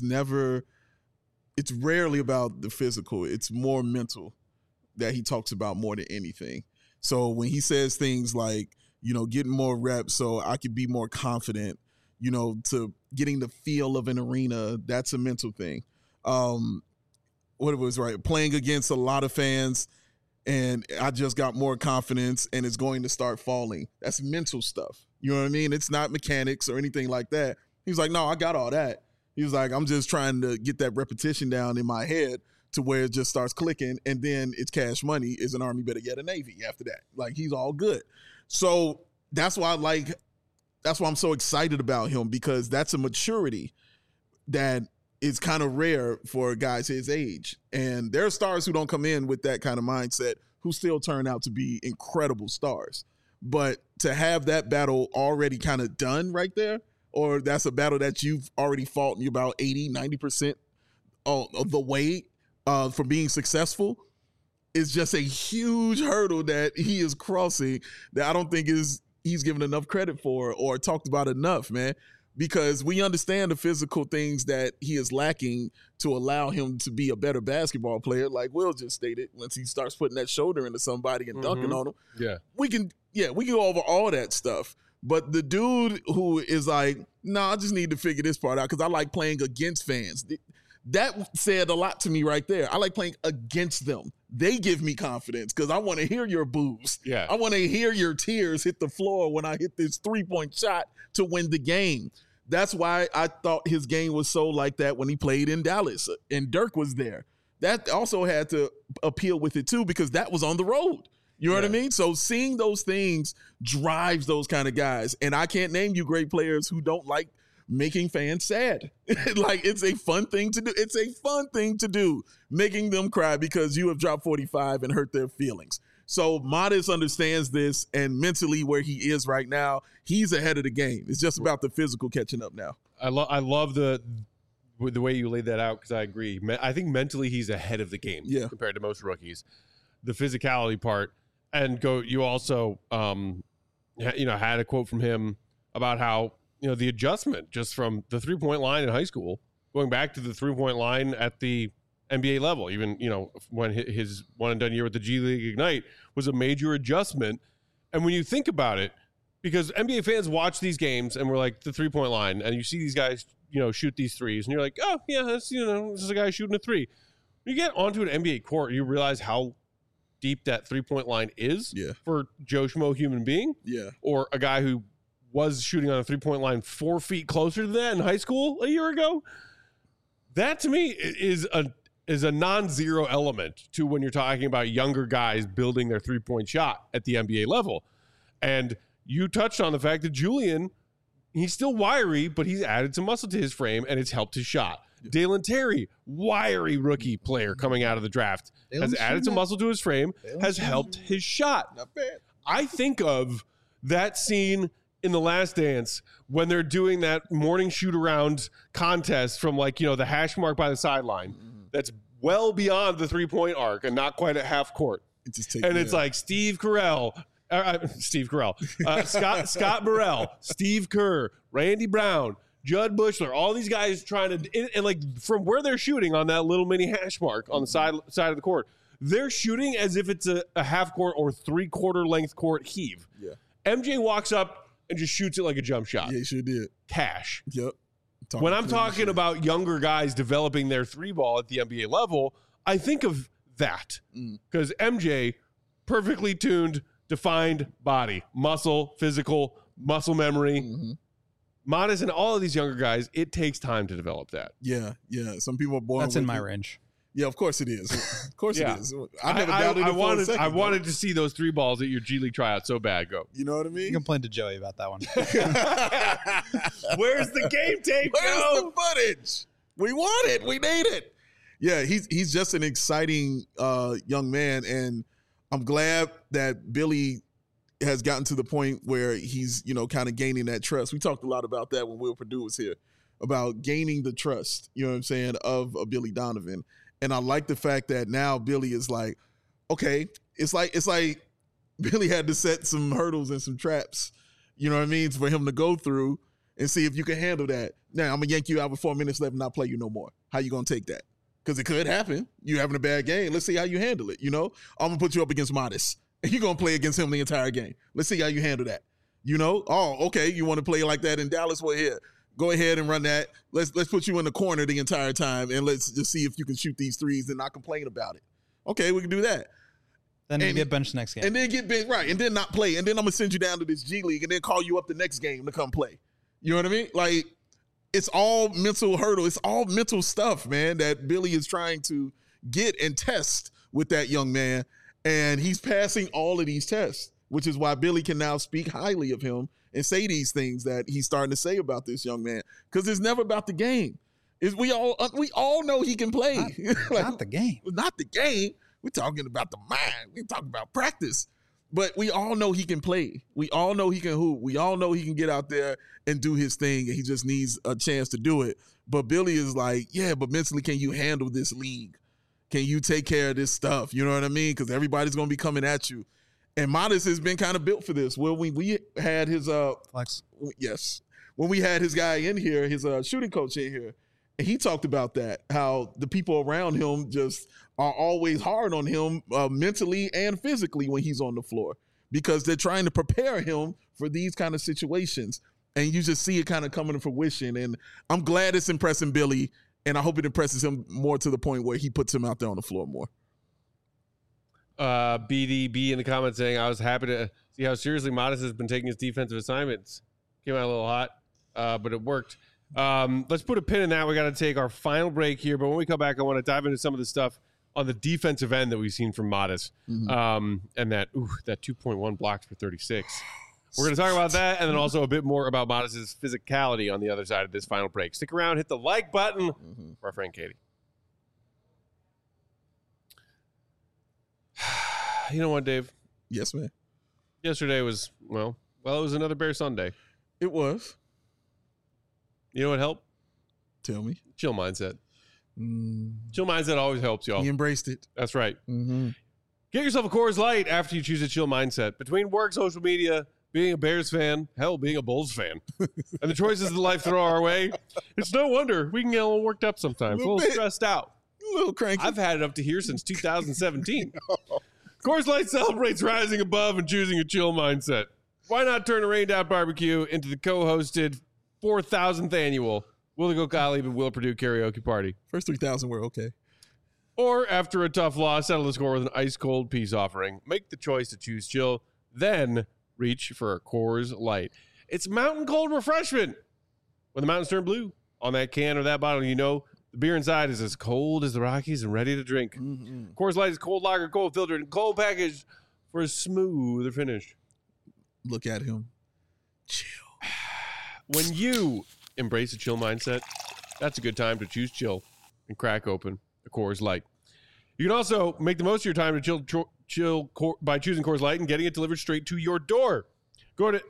rarely about the physical. It's more mental that he talks about more than anything. So when he says things like, getting more reps so I could be more confident, to getting the feel of an arena, that's a mental thing. What it was, right? Playing against a lot of fans and I just got more confidence and it's going to start falling. That's mental stuff. You know what I mean? It's not mechanics or anything like that. He was like, no, I got all that. He was like, I'm just trying to get that repetition down in my head to where it just starts clicking, and then it's cash money. Is an Army better get a Navy after that? Like, he's all good. So that's why I'm so excited about him, because that's a maturity that is kind of rare for guys his age. And there are stars who don't come in with that kind of mindset who still turn out to be incredible stars. But to have that battle already kind of done right there, or that's a battle that you've already fought and you're about 80, 90% of the way from being successful, is just a huge hurdle that he is crossing that I don't think he's given enough credit for or talked about enough, man. Because we understand the physical things that he is lacking to allow him to be a better basketball player, like Will just stated. Once he starts putting that shoulder into somebody and dunking on them, we can go over all that stuff. But the dude who is like, nah, I just need to figure this part out because I like playing against fans. That said a lot to me right there. I like playing against them. They give me confidence because I want to hear your boos. Yeah. I want to hear your tears hit the floor when I hit this 3-point shot to win the game. That's why I thought his game was so like that when he played in Dallas and Dirk was there. That also had to appeal with it too, because that was on the road. You know what I mean? So seeing those things drives those kind of guys. And I can't name you great players who don't like making fans sad. Like, it's a fun thing to do. It's a fun thing to do, making them cry because you have dropped 45 and hurt their feelings. So Modest understands this, and mentally where he is right now, he's ahead of the game. It's just about the physical catching up now. I love the way you laid that out, because I agree. I think mentally he's ahead of the game compared to most rookies. The physicality part, and you also had a quote from him about how the adjustment just from the 3-point line in high school going back to the 3-point line at the NBA level. Even, when his one and done year with the G League Ignite was a major adjustment. And when you think about it, because NBA fans watch these games and we're like the 3-point line, and you see these guys, shoot these threes, and you're like, oh yeah, that's, this is a guy shooting a three. When you get onto an NBA court, you realize how deep that 3-point line is for Joe Schmo human being. Yeah. Or a guy who was shooting on a 3-point line 4 feet closer to that in high school a year ago. That to me is a non-zero element to when you're talking about younger guys building their 3-point shot at the NBA level. And you touched on the fact that Julian, he's still wiry, but he's added some muscle to his frame, and it's helped his shot. Yeah. Dalen Terry, wiry rookie player coming out of the draft, has added some muscle to his frame, has helped his shot. Not bad. I think of that scene in The Last Dance when they're doing that morning shoot-around contest from the hash mark by the sideline. That's well beyond the 3-point arc and not quite at half court. It's like Steve Carell, Scott Burrell, Steve Kerr, Randy Brown, Judd Bushler, all these guys trying to, and from where they're shooting on that little mini hash mark on the side of the court, they're shooting as if it's a half court or 3/4 length court heave. Yeah. MJ walks up and just shoots it like a jump shot. Yeah, he sure did. Cash. Yep. When I'm talking about younger guys developing their 3 ball at the NBA level, I think of that because MJ, perfectly tuned, defined body, muscle, physical, muscle memory. Modest and all of these younger guys, it takes time to develop that. Yeah. Some people are born. That's in my range. Yeah, of course it is. Of course it is. I never doubted it for a second. I wanted to see those 3 balls at your G League tryout so bad. Go. You know what I mean? You complained to Joey about that one. Where's the game tape? Where's the footage? We want it. We need it. Yeah, he's just an exciting young man, and I'm glad that Billy has gotten to the point where he's, kind of gaining that trust. We talked a lot about that when Will Perdue was here, about gaining the trust, you know what I'm saying, of a Billy Donovan. And I like the fact that now Billy is like, okay, it's like Billy had to set some hurdles and some traps, you know what I mean, for him to go through and see if you can handle that. Now, I'm going to yank you out with 4 minutes left and not play you no more. How you going to take that? Because it could happen. You having a bad game. Let's see how you handle it, I'm going to put you up against Modest. And you're going to play against him the entire game. Let's see how you handle that. Oh, okay, you want to play like that in Dallas? Well, here, go ahead and run that. Let's put you in the corner the entire time, and let's just see if you can shoot these threes and not complain about it. Okay, we can do that. Then you get benched next game. And then get benched, right, and then not play. And then I'm going to send you down to this G League and then call you up the next game to come play. You know what I mean? Like, it's all mental hurdle. It's all mental stuff, man, that Billy is trying to get and test with that young man. And he's passing all of these tests, which is why Billy can now speak highly of him and say these things that he's starting to say about this young man. Because it's never about the game. We all know he can play. Not the game. Not the game. We're talking about the mind. We're talking about practice. But we all know he can play. We all know he can hoop. We all know he can get out there and do his thing, and he just needs a chance to do it. But Billy is like, yeah, but mentally, can you handle this league? Can you take care of this stuff? You know what I mean? Because everybody's going to be coming at you. And Modest has been kind of built for this. Well, we had his flex. Yes. When we had his guy in here, his shooting coach in here, and he talked about that, how the people around him just are always hard on him mentally and physically when he's on the floor because they're trying to prepare him for these kind of situations. And you just see it kind of coming to fruition. And I'm glad it's impressing Billy. And I hope it impresses him more to the point where he puts him out there on the floor more. BDB in the comments saying, I was happy to see how seriously Modest has been taking his defensive assignments. Came out a little hot, but it worked. Let's put a pin in that. We got to take our final break here. But when we come back, I want to dive into some of the stuff on the defensive end that we've seen from Modest. And that 2.1 blocks for 36. We're going to talk about that and then also a bit more about Modest's physicality on the other side of this final break. Stick around, hit the like button for our friend Katie. You know what, Dave? Yes, man. Yesterday was, it was another Bear Sunday. It was. You know what helped? Tell me. Chill mindset. Chill mindset always helps, y'all. He embraced it. That's right. Get yourself a Coors Light after you choose a chill mindset. Between work, social media, being a Bears fan, hell, being a Bulls fan, and the choices that life throw our way, it's no wonder we can get a little worked up sometimes, a little stressed out. A little cranky. I've had it up to here since 2017. Coors Light celebrates rising above and choosing a chill mindset. Why not turn a rained out barbecue into the co-hosted 4,000th annual Will It Go Gottlieb and Will Purdue karaoke party? First 3,000 were okay. Or after a tough loss, settle the score with an ice-cold peace offering. Make the choice to choose chill, then reach for a Coors Light. It's mountain cold refreshment. When the mountains turn blue on that can or that bottle, you know the beer inside is as cold as the Rockies and ready to drink. Mm-hmm. Coors Light is cold lager, cold filtered, and cold packaged for a smoother finish. Look at him. Chill. When you embrace a chill mindset, that's a good time to choose chill and crack open a Coors Light. You can also make the most of your time to chill by choosing Coors Light and getting it delivered straight to your door. Go to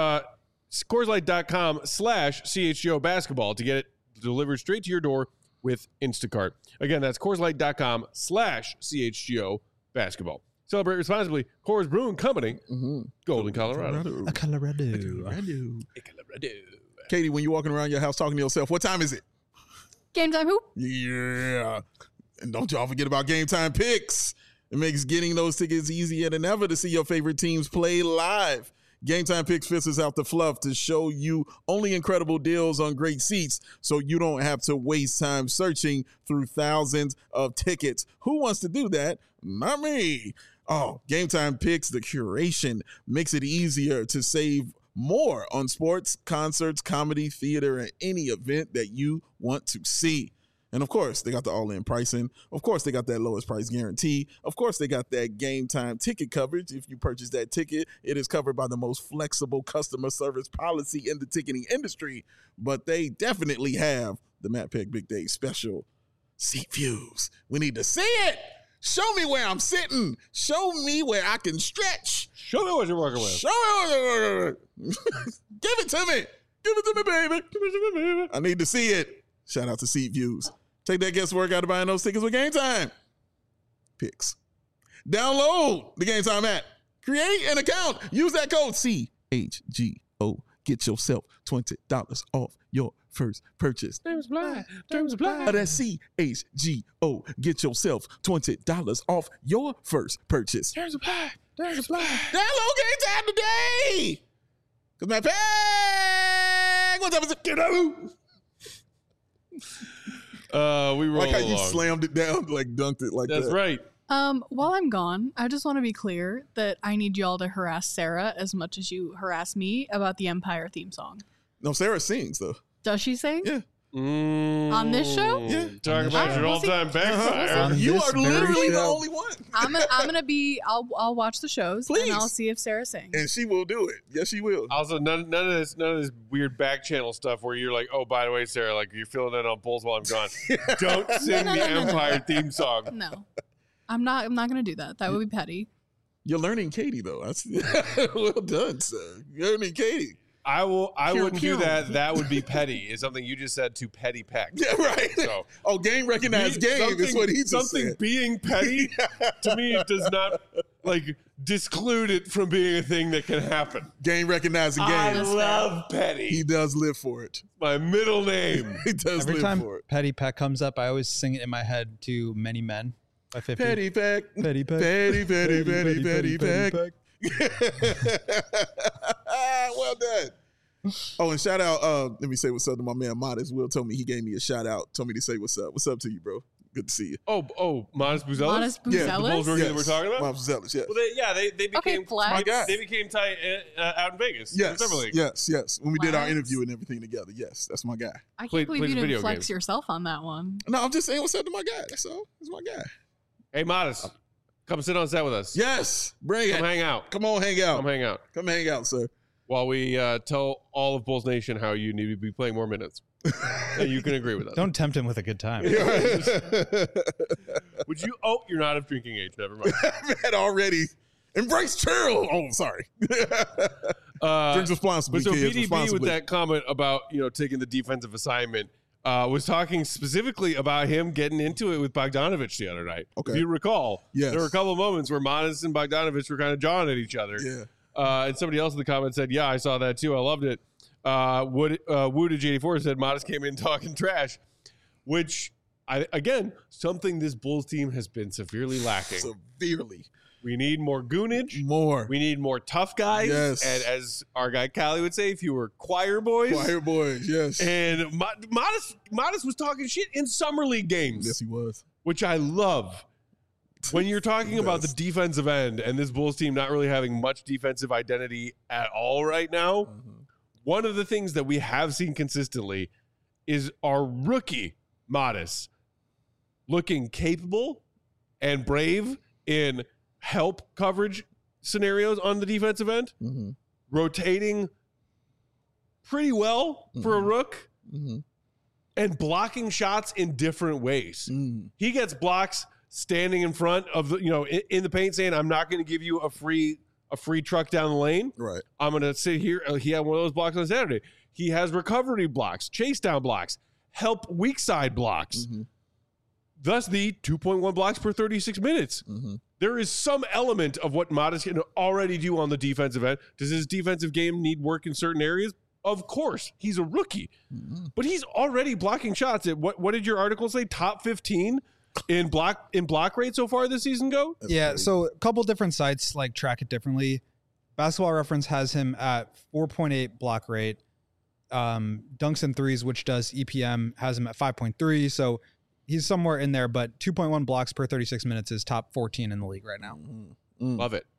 CoorsLight.com/CHGO basketball to get it delivered straight to your door with Instacart. Again, that's CoorsLight.com/CHGO basketball. Celebrate responsibly. Coors Brewing Company, Golden, Colorado. Colorado. Katie, when you're walking around your house talking to yourself, what time is it? Game time hoop. Yeah. And don't y'all forget about Game Time Picks. It makes getting those tickets easier than ever to see your favorite teams play live. Game Time Picks filters out the fluff to show you only incredible deals on great seats so you don't have to waste time searching through thousands of tickets. Who wants to do that? Not me. Oh, Game Time Picks, the curation makes it easier to save more on sports, concerts, comedy, theater, and any event that you want to see. And of course, they got the all-in pricing. Of course, they got that lowest price guarantee. Of course, they got that Game Time ticket coverage. If you purchase that ticket, it is covered by the most flexible customer service policy in the ticketing industry. But they definitely have the Matt Peck Big Day special seat views. We need to see it. Show me where I'm sitting. Show me where I can stretch. Show me what you're working with. Show me what you're working with. Give it to me. Give it to me, baby. Give it to me, baby. I need to see it. Shout out to Seat Views. Take that guesswork out of buying those tickets with Game Time Picks. Download the Game Time app. Create an account. Use that code CHGO. Get yourself $20 off your first purchase. Terms apply. Terms apply. That's CHGO. Get yourself $20 off your first purchase. Terms apply. Terms apply. Download Game Time today. Because my pack. What time is it? Get out. We roll like how along. you slammed it down, like dunked it like that. That's right. While I'm gone, I just want to be clear that I need y'all to harass Sarah as much as you harass me about the Empire theme song. No, Sarah sings though. Does she sing? Yeah. On this show? Yeah. Talk about your all-time backfire. You are literally the only one. I'm gonna be. I'll watch the shows Please. and I'll see if Sarah sings. And she will do it. Yes, she will. Also, none of this weird back channel stuff where you're like, oh, by the way, Sarah, like you're filling in on polls while I'm gone. Don't sing the Empire theme song. No, I'm not gonna do that. That would be petty. You're learning Katie though. That's well done, sir. You're learning Katie. I wouldn't do pew. that. That would be petty. Is something you just said to Petty Peck. Yeah, right. So, oh, game recognized game is what he just something said. being petty to me does not like disclude it from being a thing that can happen. Game recognizing I game. love petty. He does live for it. My middle name. He does Every live time for it. Petty Peck comes up, I always sing it in my head to Many Men by 50. Petty Peck. Petty Peck. Petty, petty, petty, petty, Peck. Well done. Oh, and shout out, let me say what's up to my man Modest. Will told me he gave me a shout out, told me to say what's up. What's up to you, bro? Good to see you. Oh, Modest Buzelis? Modest Yeah, the Buzelis? Bulls rookie that we're talking about? Modest Zealous, yes. Well, they became Okay, flex. My guy. they became tight out in Vegas. Yes, Summer League. yes. When we did our Flex. interview and everything together, yes, that's my guy. I can't Played believe you video didn't flex games. yourself on that one. No, I'm just saying what's up to my guy. That's all. That's my guy. Hey, Modest, come sit on set with us. Yes, bring Come it. hang out. Come on, hang out. Come hang out. Come hang out, sir. While we tell all of Bulls Nation how you need to be playing more minutes. And you can agree with us. Don't tempt him with a good time. Would you? Oh, you're not of drinking age. Never mind. That already. Embrace chill. Oh, sorry. Drink responsibly, But so kids. BDB Responsibly. with that comment about taking the defensive assignment was talking specifically about him getting into it with Bogdanovich the other night. Okay. If you recall, Yes. there were a couple of moments where Modest and Bogdanovich were kind of jawing at each other. Yeah. And somebody else in the comments said, yeah, I saw that too. I loved it. Woo to J84 said Modest came in talking trash, which again, something this Bulls team has been severely lacking. Severely. We need more goonage. More. We need more tough guys. Yes. And as our guy Callie would say, fewer choir boys. Choir boys, yes. And Modest was talking shit in summer league games. Yes, he was. Which I love. When you're talking about the defensive end and this Bulls team not really having much defensive identity at all right now, one of the things that we have seen consistently is our rookie Modest looking capable and brave in help coverage scenarios on the defensive end, rotating pretty well for a rook, and blocking shots in different ways. He gets blocks standing in front of the, in the paint, saying, "I'm not going to give you a free truck down the lane. Right. I'm going to sit here." He had one of those blocks on Saturday. He has recovery blocks, chase down blocks, help weak side blocks. Thus the 2.1 blocks per 36 minutes. There is some element of what Modest can already do on the defensive end. Does his defensive game need work in certain areas? Of course. He's a rookie. But he's already blocking shots at what did your article say? Top 15 in block rate so far this season go? Yeah, so a couple different sites like track it differently. Basketball Reference has him at 4.8 block rate. Dunks and Threes, which does EPM, has him at 5.3. So he's somewhere in there, but 2.1 blocks per 36 minutes is top 14 in the league right now. Love it.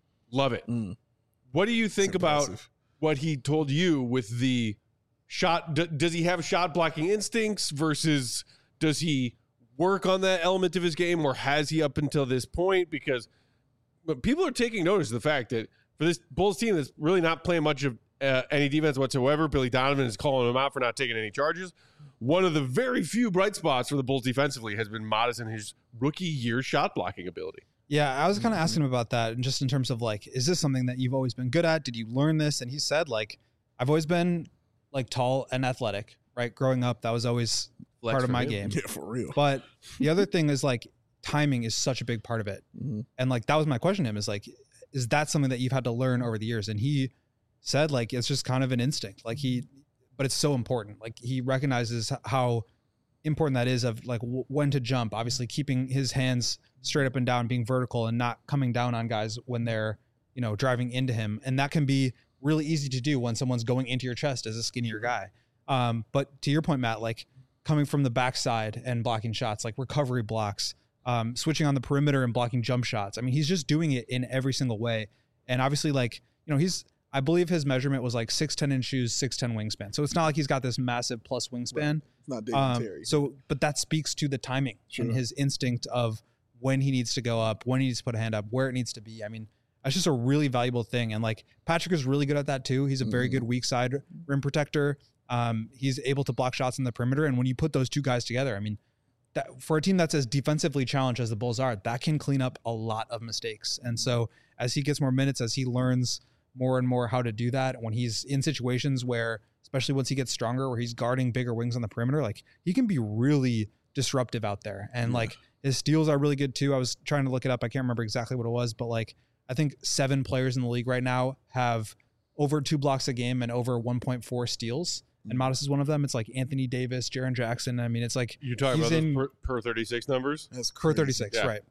What do you think about what he told you with the shot? Does he have shot blocking instincts versus does he work on that element of his game, or has he up until this point? Because people are taking notice of the fact that for this Bulls team that's really not playing much of any defense whatsoever, Billy Donovan is calling him out for not taking any charges. One of the very few bright spots for the Bulls defensively has been Modest in his rookie year shot blocking ability. Yeah, I was kind of asking him about that, and just in terms of like, is this something that you've always been good at? Did you learn this? And he said, like, I've always been like tall and athletic, right? Growing up, that was always part of my game. Yeah, for real. But the other thing is like timing is such a big part of it. And like, that was my question to him, is like, is that something that you've had to learn over the years? And he said, like, it's just kind of an instinct. Like but it's so important. Like, he recognizes how important that is of like when to jump, obviously keeping his hands straight up and down, being vertical and not coming down on guys when they're, driving into him. And that can be really easy to do when someone's going into your chest as a skinnier guy. But to your point, Matt, like coming from the backside and blocking shots, like recovery blocks, switching on the perimeter and blocking jump shots. I mean, he's just doing it in every single way. And obviously, like, I believe his measurement was like 6'10" in shoes, 6'10" wingspan. So it's not like he's got this massive plus wingspan. Right. It's not David Terry. But that speaks to the timing and his instinct of when he needs to go up, when he needs to put a hand up, where it needs to be. I mean, that's just a really valuable thing. And like Patrick is really good at that too. He's a very good weak side rim protector. He's able to block shots in the perimeter. And when you put those two guys together, I mean, that for a team that's as defensively challenged as the Bulls are, that can clean up a lot of mistakes. And so as he gets more minutes, as he learns more and more how to do that, when he's in situations where, especially once he gets stronger, where he's guarding bigger wings on the perimeter, like he can be really disruptive out there. And like his steals are really good too. I was trying to look it up. I can't remember exactly what it was, but like, I think 7 players in the league right now have over 2 blocks a game and over 1.4 steals. And Modest is one of them. It's like Anthony Davis, Jaren Jackson. I mean, it's like you're talking about those per 36 numbers. That's per 36, right?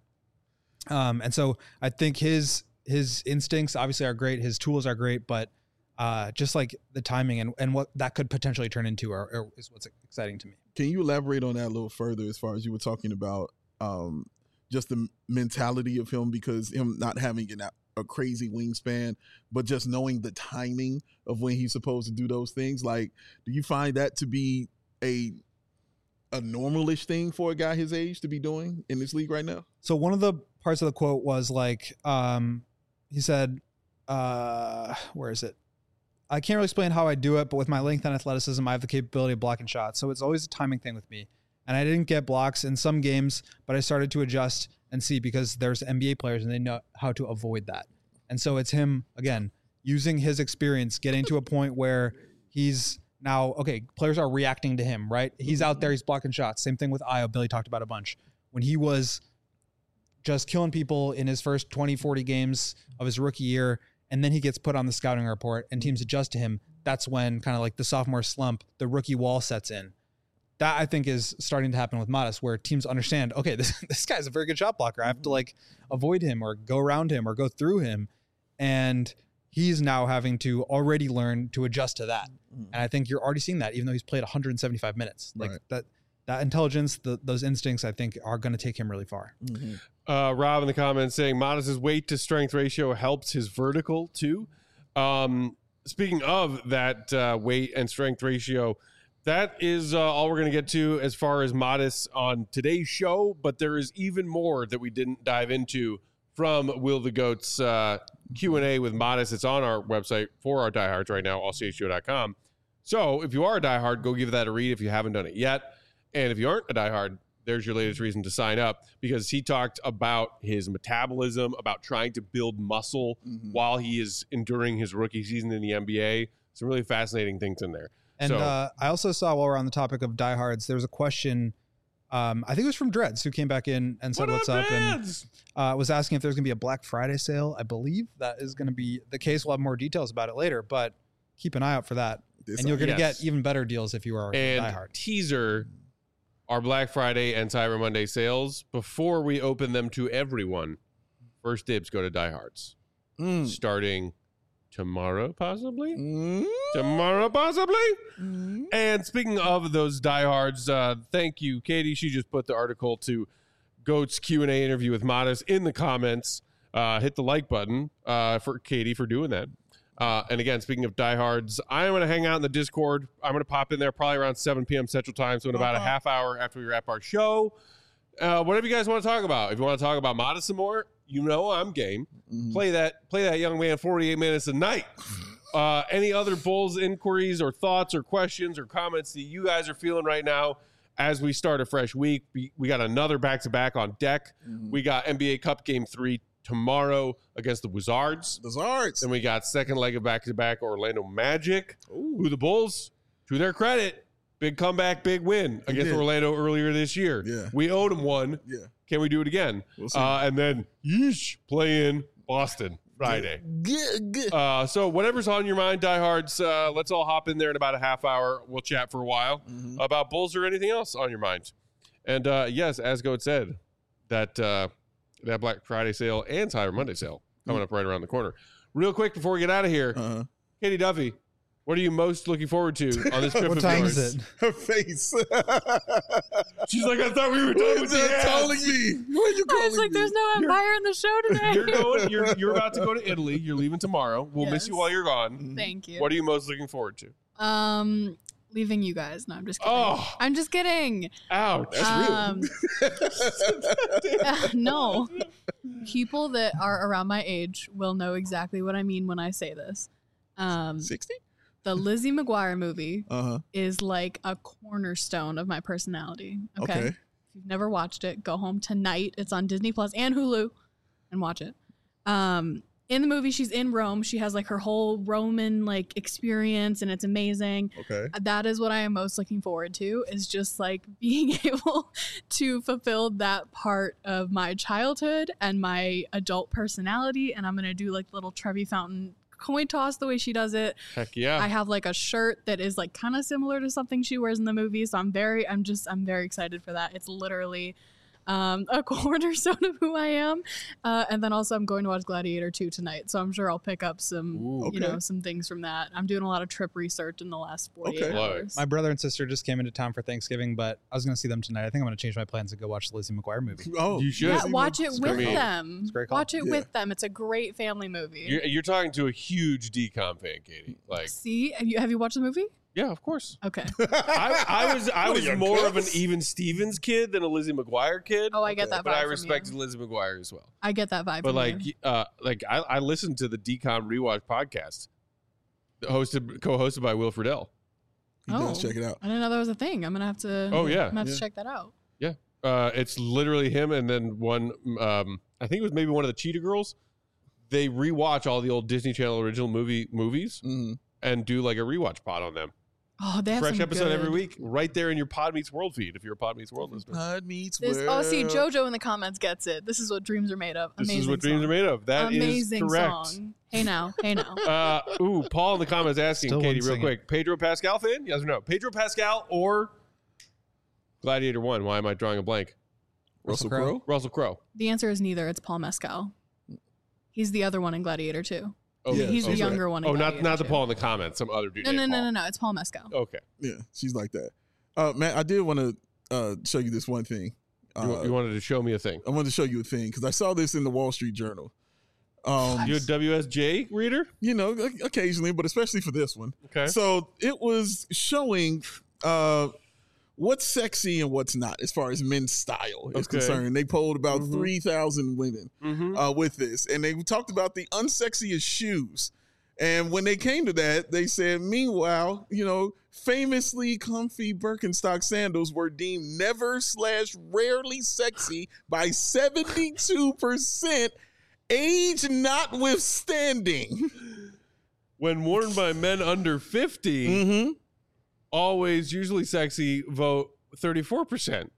And so I think his instincts obviously are great. His tools are great, but just like the timing and what that could potentially turn into is what's exciting to me. Can you elaborate on that a little further as far as you were talking about just the mentality of him, because him not having a crazy wingspan, but just knowing the timing of when he's supposed to do those things? Like, do you find that to be a normalish thing for a guy his age to be doing in this league right now? So one of the parts of the quote was like, he said, where is it? I can't really explain how I do it, but with my length and athleticism, I have the capability of blocking shots. So it's always a timing thing with me. And I didn't get blocks in some games, but I started to adjust and see, because there's NBA players and they know how to avoid that. And so it's him, again, using his experience, getting to a point where he's now, okay, players are reacting to him, right? He's out there, he's blocking shots. Same thing with Ayo. Billy talked about a bunch. When he was just killing people in his first 20, 40 games of his rookie year, and then he gets put on the scouting report and teams adjust to him, that's when kind of like the sophomore slump, the rookie wall sets in. that I think is starting to happen with Modest, where teams understand, okay, this guy's a very good shot blocker. I have to like avoid him or go around him or go through him. And he's now having to already learn to adjust to that. And I think you're already seeing that, even though he's played 175 minutes. Like that intelligence, those instincts, I think are going to take him really far. Rob in the comments saying Modest's weight to strength ratio helps his vertical too. Speaking of that weight and strength ratio, that is all we're going to get to as far as Modest on today's show, but there is even more that we didn't dive into from Will the Goat's Q&A with Modest. It's on our website for our diehards right now, allchshow.com. So if you are a diehard, go give that a read if you haven't done it yet. And if you aren't a diehard, there's your latest reason to sign up, because he talked about his metabolism, about trying to build muscle while he is enduring his rookie season in the NBA. Some really fascinating things in there. And I also saw, while we're on the topic of diehards, there was a question, I think it was from Dreads, who came back in and said, what's up? And was asking if there's going to be a Black Friday sale. I believe that is going to be the case. We'll have more details about it later, but keep an eye out for that. And you're going to get even better deals if you are a diehard. Teaser, our Black Friday and Cyber Monday sales, before we open them to everyone, first dibs go to diehards. Starting tomorrow, possibly? Tomorrow, possibly? And speaking of those diehards, thank you, Katie. She just put the article to Goat's Q&A interview with Modest in the comments. Hit the like button for Katie for doing that. And again, speaking of diehards, I'm going to hang out in the Discord. I'm going to pop in there probably around 7 p.m. Central Time, so in about a half hour after we wrap our show. Whatever you guys want to talk about. If you want to talk about Modest some more, you know I'm game. Play that young man 48 minutes a night. Any other Bulls inquiries or thoughts or questions or comments that you guys are feeling right now as we start a fresh week? We got another back-to-back on deck. We got NBA Cup Game 3 tomorrow against the Wizards. Then we got second leg of back-to-back Orlando Magic, who the Bulls, to their credit, big comeback, big win against Orlando earlier this year. We owed them one. Can we do it again? We'll see. And then, play in Boston Friday. So whatever's on your mind, diehards, let's all hop in there in about a half hour. We'll chat for a while about Bulls or anything else on your mind. And yes, as Goat said, that Black Friday sale and Cyber Monday sale coming up right around the corner. Real quick before we get out of here, Katie Duffy, what are you most looking forward to on this trip? What time is it? Her face. She's like, I thought we were done with the calling me. What are you calling I was like, there's no Empire in the show today. You're about to go to Italy. You're leaving tomorrow. We'll miss you while you're gone. Thank you. What are you most looking forward to? Leaving you guys. No, I'm just kidding. I'm just kidding. Ouch. That's real. No. People that are around my age will know exactly what I mean when I say this. 60? The Lizzie McGuire movie is like a cornerstone of my personality. Okay. If you've never watched it, go home tonight. It's on Disney Plus and Hulu and watch it. In the movie, she's in Rome. She has like her whole Roman like experience, and it's amazing. That is what I am most looking forward to, is just like being able to fulfill that part of my childhood and my adult personality. And I'm going to do like little Trevi Fountain coin toss the way she does it. Heck yeah. I have like a shirt that is like kind of similar to something she wears in the movie. So I'm very excited for that. It's literally a cornerstone of who I am. And then also I'm going to watch Gladiator 2 tonight. So I'm sure I'll pick up some, some things from that. I'm doing a lot of trip research in the last 48 hours. My brother and sister just came into town for Thanksgiving, but I was going to see them tonight. I think I'm going to change my plans and go watch the Lizzie McGuire movie. You should. Yeah, watch it with them. It's a great call. Watch it with them. It's a great family movie. You're talking to a huge DCOM fan, Katie. Like, see, have you watched the movie? Yeah, of course. Okay. I was more of an Even Stevens kid than a Lizzie McGuire kid. Oh, I get that vibe. But I respected Lizzie McGuire as well. I get that vibe. But I listened to the DCOM Rewatch podcast, co-hosted by Will Friedle. He does. Check it out. I didn't know that was a thing. I'm gonna have to. Oh yeah. I'm gonna have to check that out. Yeah. It's literally him and then one. I think it was maybe one of the Cheetah Girls. They rewatch all the old Disney Channel original movies and do like a rewatch pod on them. Oh, they have fresh some episode good. every week, right there in your Pod Meets World feed. If you're a Pod Meets World listener, Pod Meets World. Oh, see, JoJo in the comments gets it. This is what dreams are made of. This Amazing is what song. dreams are made of. That Amazing is correct. Song. Hey now. Paul in the comments asking Still Katie real sing quick. Pedro Pascal fan? Yes or no? Pedro Pascal or Gladiator 1. Why am I drawing a blank? Russell Crowe? Russell Crowe. The answer is neither. It's Paul Mescal. He's the other one in Gladiator 2. Oh, Yeah, He's the okay. younger one in Gladiator not the 2. Paul in the comments. Some other dude. named Paul. No. It's Paul Mescal. Okay. Yeah, she's like that. Matt, I did want to show you this one thing. You wanted to show me a thing. I wanted to show you a thing because I saw this in the Wall Street Journal. You a WSJ reader? You know, occasionally, but especially for this one. Okay. So it was showing what's sexy and what's not as far as men's style is concerned. They polled about 3,000 women with this, and they talked about the unsexiest shoes. And when they came to that, they said, meanwhile, you know, famously comfy Birkenstock sandals were deemed never/rarely sexy by 72%, age notwithstanding. When worn by men under 50, always usually sexy, vote 34%.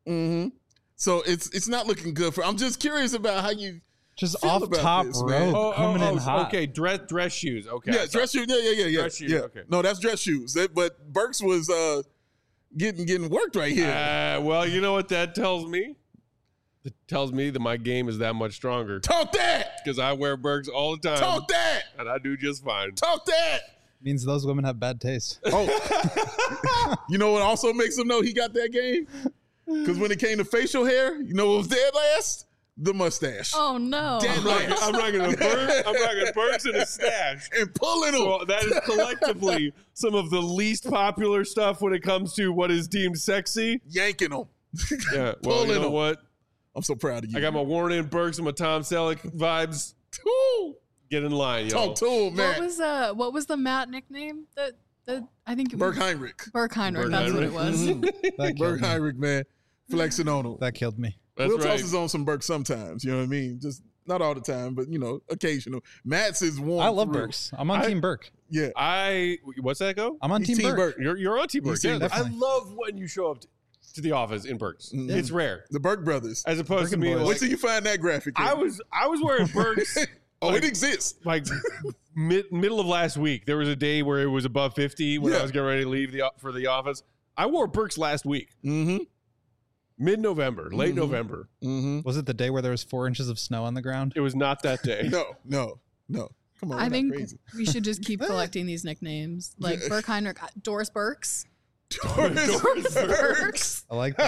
So it's not looking good for. I'm just curious about how you Just feel off about top this, rope, man. coming in hot. Okay, dress shoes. Okay. Yeah, dress shoes. Yeah. Dress shoes, yeah. okay. No, that's dress shoes. But Burks was getting worked right here. Well, you know what that tells me? It tells me that my game is that much stronger. Talk that. Because I wear Birks all the time. Talk that. And I do just fine. Talk that. Means those women have bad taste. Oh, you know what also makes him know he got that game? Because when it came to facial hair, you know what was dead last? The mustache. Oh no! Dead last. I'm not gonna Birks in a stash. And pulling them. So that is collectively some of the least popular stuff when it comes to what is deemed sexy. Yanking them. Yeah. Well, you Pulling know them. what? I'm so proud of you. I got my Warren and Birks and my Tom Selleck vibes. Ooh. Get in line, yo. Talk to him, man. What was the Matt nickname that I think it was Burke Heinrich. Burke Heinrich. That's what it was. That Burke killed me. Heinrich, man. Flexing on him. That killed me. That's Will right. tosses on some Burke sometimes. You know what I mean? Just not all the time, but you know, occasional. Matt's is warm. I love through. Burks. I'm on Team Burke. Yeah. What's that go? I'm on He's Team Burke. You're on Team Birks. Team Yeah, Birks. I love when you show up to the office in Birks. Mhm. It's rare, The Burke brothers. as opposed to Birkin me. boys. Like, Wait till you find that graphic. I was wearing Birks Oh, like- it exists. like middle of last week. There was a day where it was above 50 when Yeah. I was getting ready to leave for the office. I wore Birks last week, Mm-hmm. mid-November, late Mhm. November. Mm-hmm. Was it the day where there was 4 inches of snow on the ground? It was not that day. No. Come on. I we're think not crazy. we should just keep collecting these nicknames, like Burke Heinrich, Doris Burks. Doris Burks. I like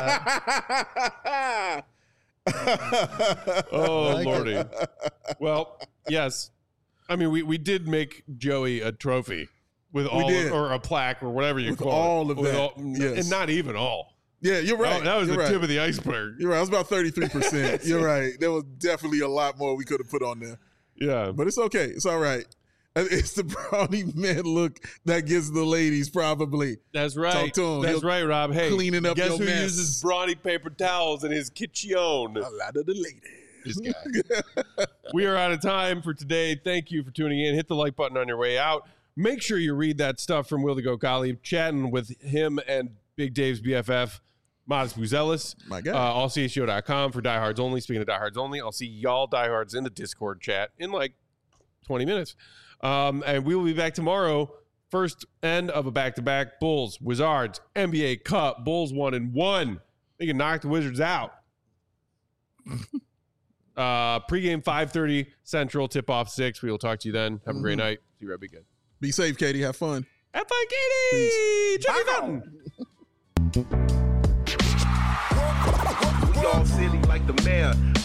that. Oh, I like Lordy. Well, yes. I mean, we did make Joey a trophy with all did. or a plaque or whatever you With call all it. of With that. Yes. And not even all. Yeah, you're right. That was You're the right. tip of the iceberg. You're right. It was about 33%. You're right. There was definitely a lot more we could have put on there. Yeah. But it's okay. It's all right. It's the brownie man look that gets the ladies probably. That's right. Talk to him. That's He'll right, Rob. Hey, cleaning up guess your who mess. uses brawny paper towels in his kitchen? A lot of the ladies. This guy. We are out of time for today. Thank you for tuning in. Hit the like button on your way out. Make sure you read that stuff from Will the Goat Gottlieb, chatting with him and Big Dave's BFF, Modest Buzelis. My God. AllCSGO.com for diehards only. Speaking of diehards only, I'll see y'all diehards in the Discord chat in like 20 minutes. And we will be back tomorrow. First end of a back-to-back. Bulls, Wizards, NBA Cup. Bulls 1-1. They can knock the Wizards out. Pre-game 5:30 Central. Tip-off 6. We will talk to you then. Have a great night. See you right. Be good. Be safe, Katie. Have fun. Have fun, Katie. Check it out. We all silly like the mayor.